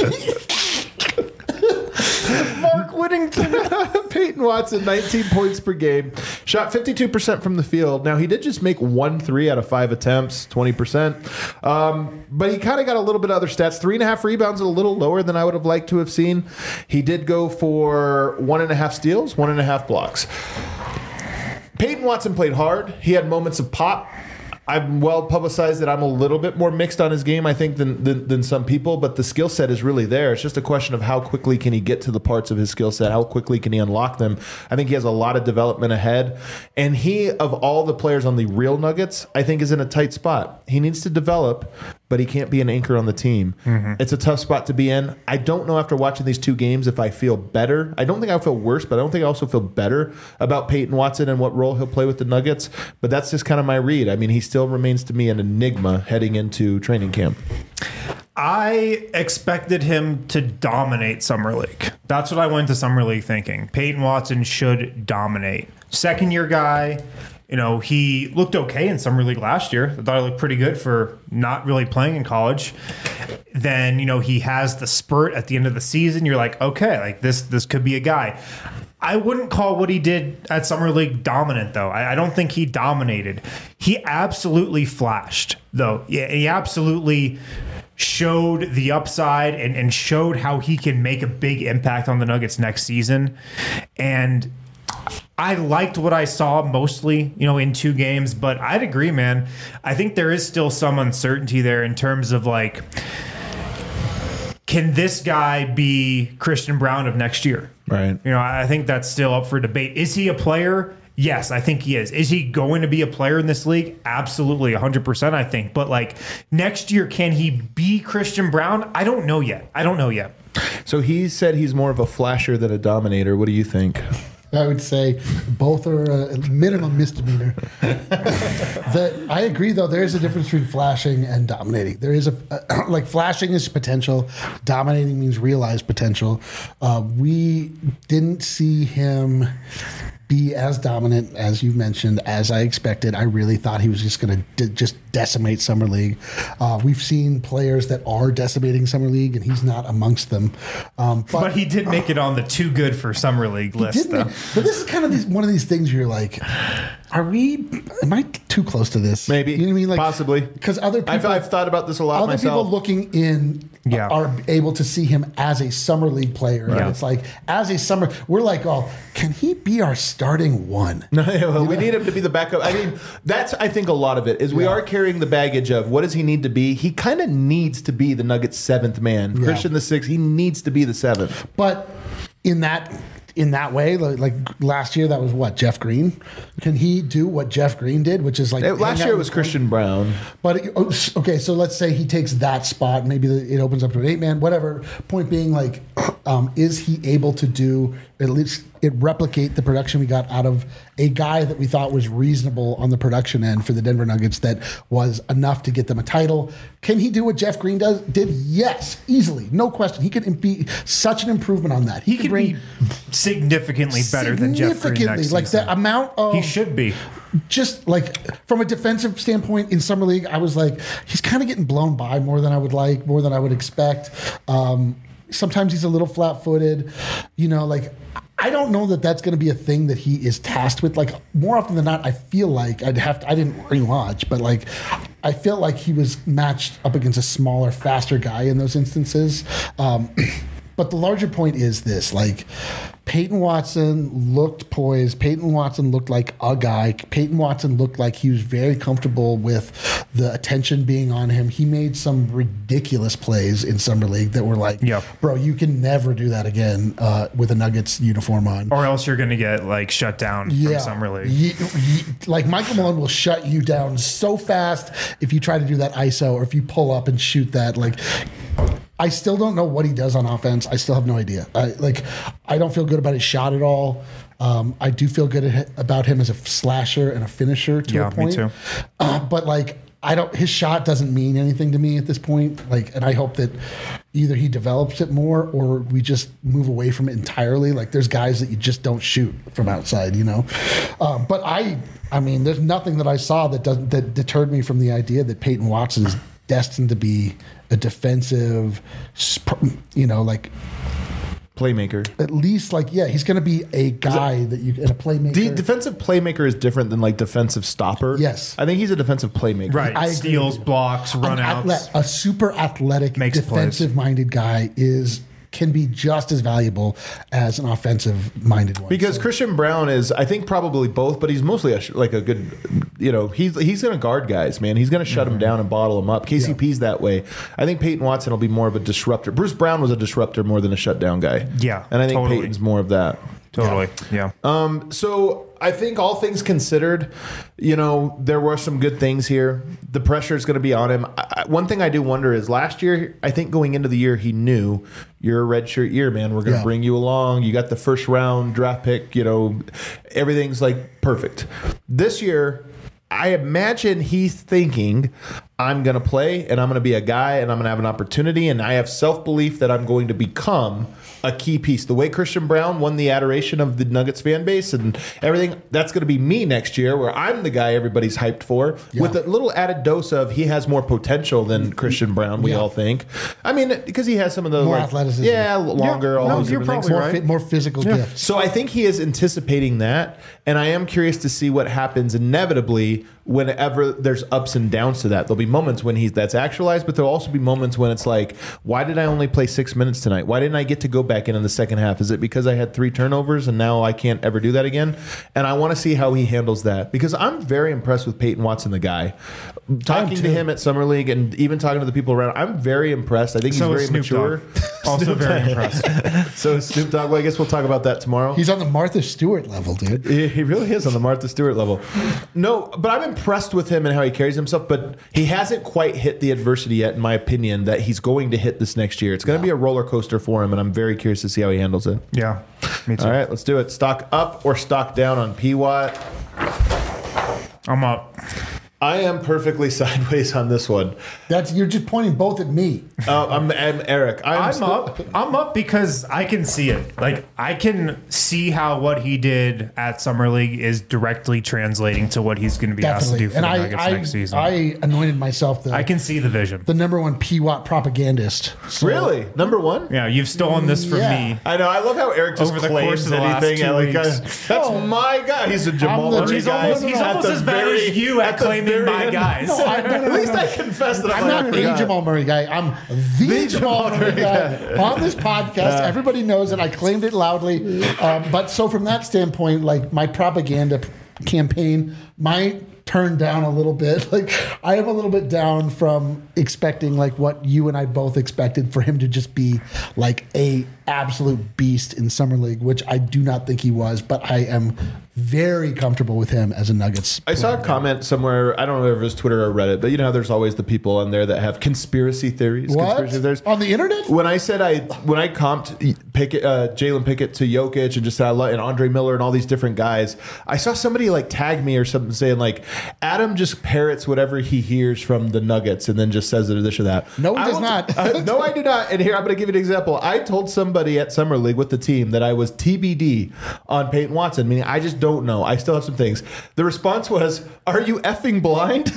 [SPEAKER 3] Mark Whittington.
[SPEAKER 1] Peyton Watson, 19 points per game. Shot 52% from the field. Now, he did just make 1 3 out of 5 attempts, 20%. But he kind of got a little bit of other stats. 3.5 rebounds, a little lower than I would have liked to have seen. He did go for 1.5 steals, 1.5 blocks. Peyton Watson played hard. He had moments of pop. I'm well publicized that I'm a little bit more mixed on his game, I think, than some people, but the skill set is really there. It's just a question of how quickly can he get to the parts of his skill set, how quickly can he unlock them. I think he has a lot of development ahead, and he, of all the players on the real Nuggets, I think is in a tight spot. He needs to develop, but he can't be an anchor on the team. It's a tough spot to be in. I don't know after watching these 2 games if I feel better. I don't think I feel worse, but I don't think I also feel better about Peyton Watson and what role he'll play with the Nuggets. But that's just kind of my read. I mean, he still remains to me an enigma heading into training camp.
[SPEAKER 3] I expected him to dominate Summer League. That's what I went to Summer League thinking. Peyton Watson should dominate. Second-year guy. You know, he looked okay in Summer League last year. I thought he looked pretty good for not really playing in college. Then, you know, he has the spurt at the end of the season. You're like, okay, like this could be a guy. I wouldn't call what he did at Summer League dominant, though. I don't think he dominated. He absolutely flashed, though. Yeah, he absolutely showed the upside and showed how he can make a big impact on the Nuggets next season. And I liked what I saw mostly, in 2 games, but I'd agree, man. I think there is still some uncertainty there in terms of like, can this guy be Christian Braun of next year?
[SPEAKER 1] Right.
[SPEAKER 3] I think that's still up for debate. Is he a player? Yes, I think he is. Is he going to be a player in this league? Absolutely, 100%, I think. But like next year, can he be Christian Braun? I don't know yet.
[SPEAKER 1] So he said he's more of a flasher than a dominator. What do you think?
[SPEAKER 2] I would say both are a minimum misdemeanor. I agree, though. There is a difference between flashing and dominating. There is like flashing is potential. Dominating means realized potential. We didn't see him be as dominant as you mentioned, as I expected. I really thought he was just going to just decimate Summer League. We've seen players that are decimating Summer League, and he's not amongst them.
[SPEAKER 3] But he did make it on the too good for Summer League list, though.
[SPEAKER 2] But this is kind of one of these things where you're like, am I too close to this?
[SPEAKER 1] Maybe.
[SPEAKER 2] You know what I mean? Like,
[SPEAKER 1] possibly.
[SPEAKER 2] Because other people,
[SPEAKER 1] I've thought about this a lot
[SPEAKER 2] other
[SPEAKER 1] myself.
[SPEAKER 2] people looking in are able to see him as a Summer League player.
[SPEAKER 1] Right.
[SPEAKER 2] And it's like, we're like, oh, can he be our starting one?
[SPEAKER 1] Well, we need him to be the backup. I mean, that's, I think, a lot of it is we are carrying the baggage of what does he need to be? He kind of needs to be the Nuggets' 7th man.
[SPEAKER 2] Yeah.
[SPEAKER 1] Christian the 6th, he needs to be the 7th.
[SPEAKER 2] But in that way, like last year, that was what, Jeff Green? Can he do what Jeff Green did, which is like
[SPEAKER 1] Last year it was Christian Braun.
[SPEAKER 2] But okay, so let's say he takes that spot. Maybe it opens up to an 8-man, whatever. Point being, like, is he able to do at least replicate the production we got out of a guy that we thought was reasonable on the production end for the Denver Nuggets that was enough to get them a title? Can he do what Jeff Green did? Yes, easily, no question. He could be such an improvement on that.
[SPEAKER 3] He could be significantly better than Jeff Green next
[SPEAKER 2] like
[SPEAKER 3] season.
[SPEAKER 2] the amount of
[SPEAKER 3] he should be.
[SPEAKER 2] Just like from a defensive standpoint in Summer League, I was like, he's kind of getting blown by more than I would like, more than I would expect. Sometimes he's a little flat-footed, like I don't know that that's going to be a thing that he is tasked with. Like more often than not, I feel like I didn't rewatch, but like I feel like he was matched up against a smaller, faster guy in those instances. But the larger point is this, like Peyton Watson looked poised. Peyton Watson looked like a guy. Peyton Watson looked like he was very comfortable with the attention being on him. He made some ridiculous plays in Summer League that were like, bro, you can never do that again with a Nuggets uniform on.
[SPEAKER 3] Or else you're going to get like shut down from Summer League.
[SPEAKER 2] Like Michael Malone will shut you down so fast if you try to do that ISO or if you pull up and shoot that. Like, I still don't know what he does on offense. I still have no idea. I don't feel good about his shot at all. I do feel good about him as a slasher and a finisher to a point.
[SPEAKER 3] Me too.
[SPEAKER 2] But like, his shot doesn't mean anything to me at this point. Like, and I hope that either he develops it more or we just move away from it entirely. Like, there's guys that you just don't shoot from outside, But I mean, there's nothing that I saw that deterred me from the idea that Peyton Watson is destined to be a defensive, like
[SPEAKER 1] playmaker.
[SPEAKER 2] At least, he's going to be a guy that you and a playmaker.
[SPEAKER 1] The defensive playmaker is different than like defensive stopper.
[SPEAKER 2] Yes,
[SPEAKER 1] I think he's a defensive playmaker.
[SPEAKER 3] Right, steals, blocks, runouts.
[SPEAKER 2] A super athletic, defensive-minded guy can be just as valuable as an offensive-minded one.
[SPEAKER 1] Because Christian Braun is, I think, probably both, but he's mostly a good, he's going to guard guys, man. He's going to shut them down and bottle them up. KCP's that way. I think Peyton Watson will be more of a disruptor. Bruce Brown was a disruptor more than a shutdown guy.
[SPEAKER 3] Yeah,
[SPEAKER 1] and I think Peyton's more of that.
[SPEAKER 3] Totally, yeah.
[SPEAKER 1] So I think all things considered, there were some good things here. The pressure is going to be on him. One thing I do wonder is last year, I think going into the year, he knew you're a redshirt year, man. We're going to bring you along. You got the first round draft pick. Everything's like perfect. This year, I imagine he's thinking, I'm going to play and I'm going to be a guy and I'm going to have an opportunity and I have self-belief that I'm going to become a key piece. The way Christian Braun won the adoration of the Nuggets fan base and everything, that's going to be me next year where I'm the guy everybody's hyped for with a little added dose of he has more potential than Christian Braun, we all think. I mean, because he has some of the
[SPEAKER 2] more athleticism.
[SPEAKER 1] Yeah, longer, all those
[SPEAKER 2] you're
[SPEAKER 1] different
[SPEAKER 2] probably
[SPEAKER 1] things.
[SPEAKER 2] right. More physical gifts.
[SPEAKER 1] So I think he is anticipating that, and I am curious to see what happens inevitably whenever there's ups and downs to that. There'll be moments when that's actualized, but there'll also be moments when it's like, why did I only play 6 minutes tonight? Why didn't I get to go back in the second half? Is it because I had 3 turnovers and now I can't ever do that again? And I want to see how he handles that, because I'm very impressed with Peyton Watson, the guy. Talking to him at Summer League and even talking to the people around, I'm very impressed. I think he's very mature.
[SPEAKER 3] Also very impressed.
[SPEAKER 1] So Snoop Dogg, well, I guess we'll talk about that tomorrow.
[SPEAKER 2] He's on the Martha Stewart level, dude.
[SPEAKER 1] He really is on the Martha Stewart level. No, but I'm impressed with him and how he carries himself, but he hasn't quite hit the adversity yet, in my opinion, that he's going to hit this next year. It's going to be a roller coaster for him, and I'm very curious to see how he handles it.
[SPEAKER 3] Yeah, me too.
[SPEAKER 1] All right, let's do it. Stock up or stock down on PWatt?
[SPEAKER 3] I'm up.
[SPEAKER 1] I am perfectly sideways on this one.
[SPEAKER 2] You're just pointing both at me.
[SPEAKER 1] I'm Eric.
[SPEAKER 3] I'm up. I'm up because I can see it. Like, I can see how what he did at Summer League is directly translating to what he's going to be asked to do for the Nuggets next season.
[SPEAKER 2] I anointed myself
[SPEAKER 3] I can see the vision.
[SPEAKER 2] the number one PWatt propagandist. So-
[SPEAKER 1] Really? Number one?
[SPEAKER 3] Yeah, you've stolen this from
[SPEAKER 2] Yeah.
[SPEAKER 3] me.
[SPEAKER 1] I know. I love how Eric just
[SPEAKER 3] Over the
[SPEAKER 1] claims
[SPEAKER 3] course of the last
[SPEAKER 1] anything.
[SPEAKER 3] 2 weeks.
[SPEAKER 1] That's
[SPEAKER 2] Oh.
[SPEAKER 1] my guy. He's a Jamal
[SPEAKER 2] I'm the-
[SPEAKER 1] Murray
[SPEAKER 2] he's
[SPEAKER 1] guy.
[SPEAKER 2] almost-
[SPEAKER 3] He's
[SPEAKER 2] At
[SPEAKER 3] almost
[SPEAKER 1] the
[SPEAKER 3] as bad
[SPEAKER 1] very-
[SPEAKER 3] as you at
[SPEAKER 1] the
[SPEAKER 3] claiming
[SPEAKER 1] very
[SPEAKER 3] my
[SPEAKER 1] end.
[SPEAKER 3] guys.
[SPEAKER 2] No,
[SPEAKER 1] At least I confess that
[SPEAKER 2] I'm not a Jamal Murray guy. I'm the Jamal Murray guy on this podcast. Everybody knows it. I claimed it loudly. But so from that standpoint, like, my propaganda campaign might turn down a little bit. Like, I am a little bit down from expecting like what you and I both expected, for him to just be like a absolute beast in Summer League, which I do not think he was, but I am very comfortable with him as a Nuggets
[SPEAKER 1] I saw a comment somewhere. I don't know if it was Twitter or Reddit, but you know how there's always the people on there that have conspiracy theories.
[SPEAKER 2] What?
[SPEAKER 1] Conspiracy theories.
[SPEAKER 2] On the internet?
[SPEAKER 1] When I said when I comped Jalen Pickett to Jokic and just said and Andre Miller and all these different guys, I saw somebody like tag me or something saying like, Adam just parrots whatever he hears from the Nuggets and then just says it or this or that.
[SPEAKER 2] No, he does not.
[SPEAKER 1] No, I do not. And here, I'm going to give you an example. I told somebody at Summer League with the team that I was TBD on Peyton Watson, meaning I just don't know. I still have some things. The response was, "Are you effing blind?"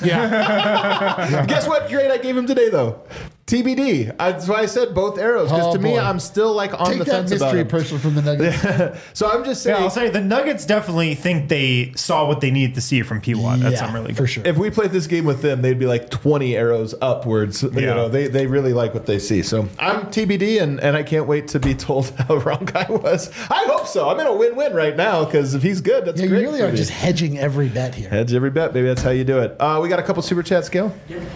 [SPEAKER 2] Yeah.
[SPEAKER 1] Guess what grade I gave him today, though? TBD. That's why I said both arrows, because to me,
[SPEAKER 2] boy.
[SPEAKER 1] I'm still like on
[SPEAKER 2] Take
[SPEAKER 1] the
[SPEAKER 2] that
[SPEAKER 1] fence about
[SPEAKER 2] mystery
[SPEAKER 1] it.
[SPEAKER 2] person from the Nuggets.
[SPEAKER 1] So I'm just
[SPEAKER 3] Yeah,
[SPEAKER 1] saying,
[SPEAKER 3] I'll say the Nuggets definitely think they saw what they needed to see from PWatt at Summer League.
[SPEAKER 2] for sure.
[SPEAKER 1] if we played this game with them, they'd be like 20 arrows upwards. You
[SPEAKER 3] Yeah.
[SPEAKER 1] know, they really like what they see. So I'm TBD, and I can't wait to be told how wrong I was. I hope so. I'm in a win-win right now, because if he's good, that's
[SPEAKER 2] Yeah, you
[SPEAKER 1] great.
[SPEAKER 2] really
[SPEAKER 1] for
[SPEAKER 2] are
[SPEAKER 1] me.
[SPEAKER 2] just hedging every bet here.
[SPEAKER 1] Hedge every bet, baby. That's how you do it. We got a couple super chats, Gail.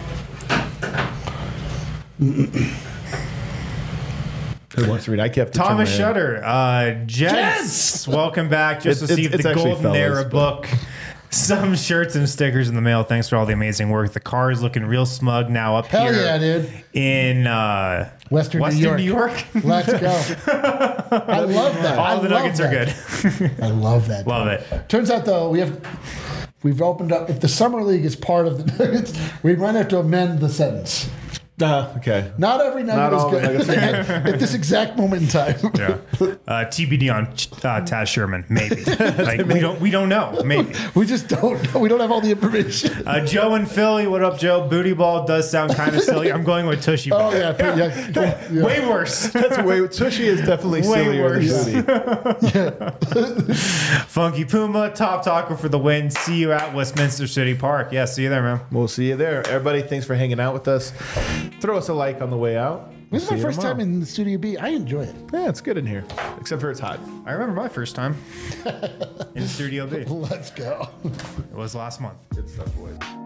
[SPEAKER 1] Who wants to read? I kept
[SPEAKER 3] Thomas Shutter, Jets, welcome back. Just
[SPEAKER 1] It's
[SPEAKER 3] received the
[SPEAKER 1] actually
[SPEAKER 3] Golden
[SPEAKER 1] fellas,
[SPEAKER 3] Era
[SPEAKER 1] but-
[SPEAKER 3] book. Some shirts and stickers in the mail. Thanks for all the amazing work. The car is looking real smug now up
[SPEAKER 2] Hell
[SPEAKER 3] here
[SPEAKER 2] yeah, dude.
[SPEAKER 3] in
[SPEAKER 2] Western
[SPEAKER 3] New
[SPEAKER 2] New
[SPEAKER 3] York.
[SPEAKER 2] Let's go. I love that.
[SPEAKER 3] All the Nuggets are good.
[SPEAKER 2] I love that.
[SPEAKER 3] Love it.
[SPEAKER 2] Turns out, though, we've opened up. If the Summer League is part of the Nuggets, we might have to amend the sentence.
[SPEAKER 1] Okay.
[SPEAKER 2] Not every
[SPEAKER 1] Not all
[SPEAKER 2] Nugget
[SPEAKER 1] the
[SPEAKER 2] is good at this exact moment in time.
[SPEAKER 3] Yeah. TBD on Taz Sherman, maybe. Like we don't know. Maybe.
[SPEAKER 2] We just don't know. We don't have all the information.
[SPEAKER 3] Joe in Philly, what up, Joe? Booty ball does sound kind of silly. I'm going with Tushy ball.
[SPEAKER 2] Oh, yeah.
[SPEAKER 3] Way worse.
[SPEAKER 1] That's way. Tushy is definitely
[SPEAKER 3] Way
[SPEAKER 1] sillier
[SPEAKER 3] worse.
[SPEAKER 1] than Booty.
[SPEAKER 3] Funky Puma, top talker for the win. See you at Westminster City Park. Yeah, see you there, man.
[SPEAKER 1] We'll see you there. Everybody, thanks for hanging out with us. Throw us a like on the way out.
[SPEAKER 2] This is
[SPEAKER 1] See
[SPEAKER 2] my
[SPEAKER 1] you
[SPEAKER 2] first
[SPEAKER 1] tomorrow.
[SPEAKER 2] time in the Studio B. I enjoy it.
[SPEAKER 1] Yeah, it's good in here, except for it's hot.
[SPEAKER 3] I remember my first time in Studio B.
[SPEAKER 2] Let's go.
[SPEAKER 3] It was last month.
[SPEAKER 1] Good stuff, boys.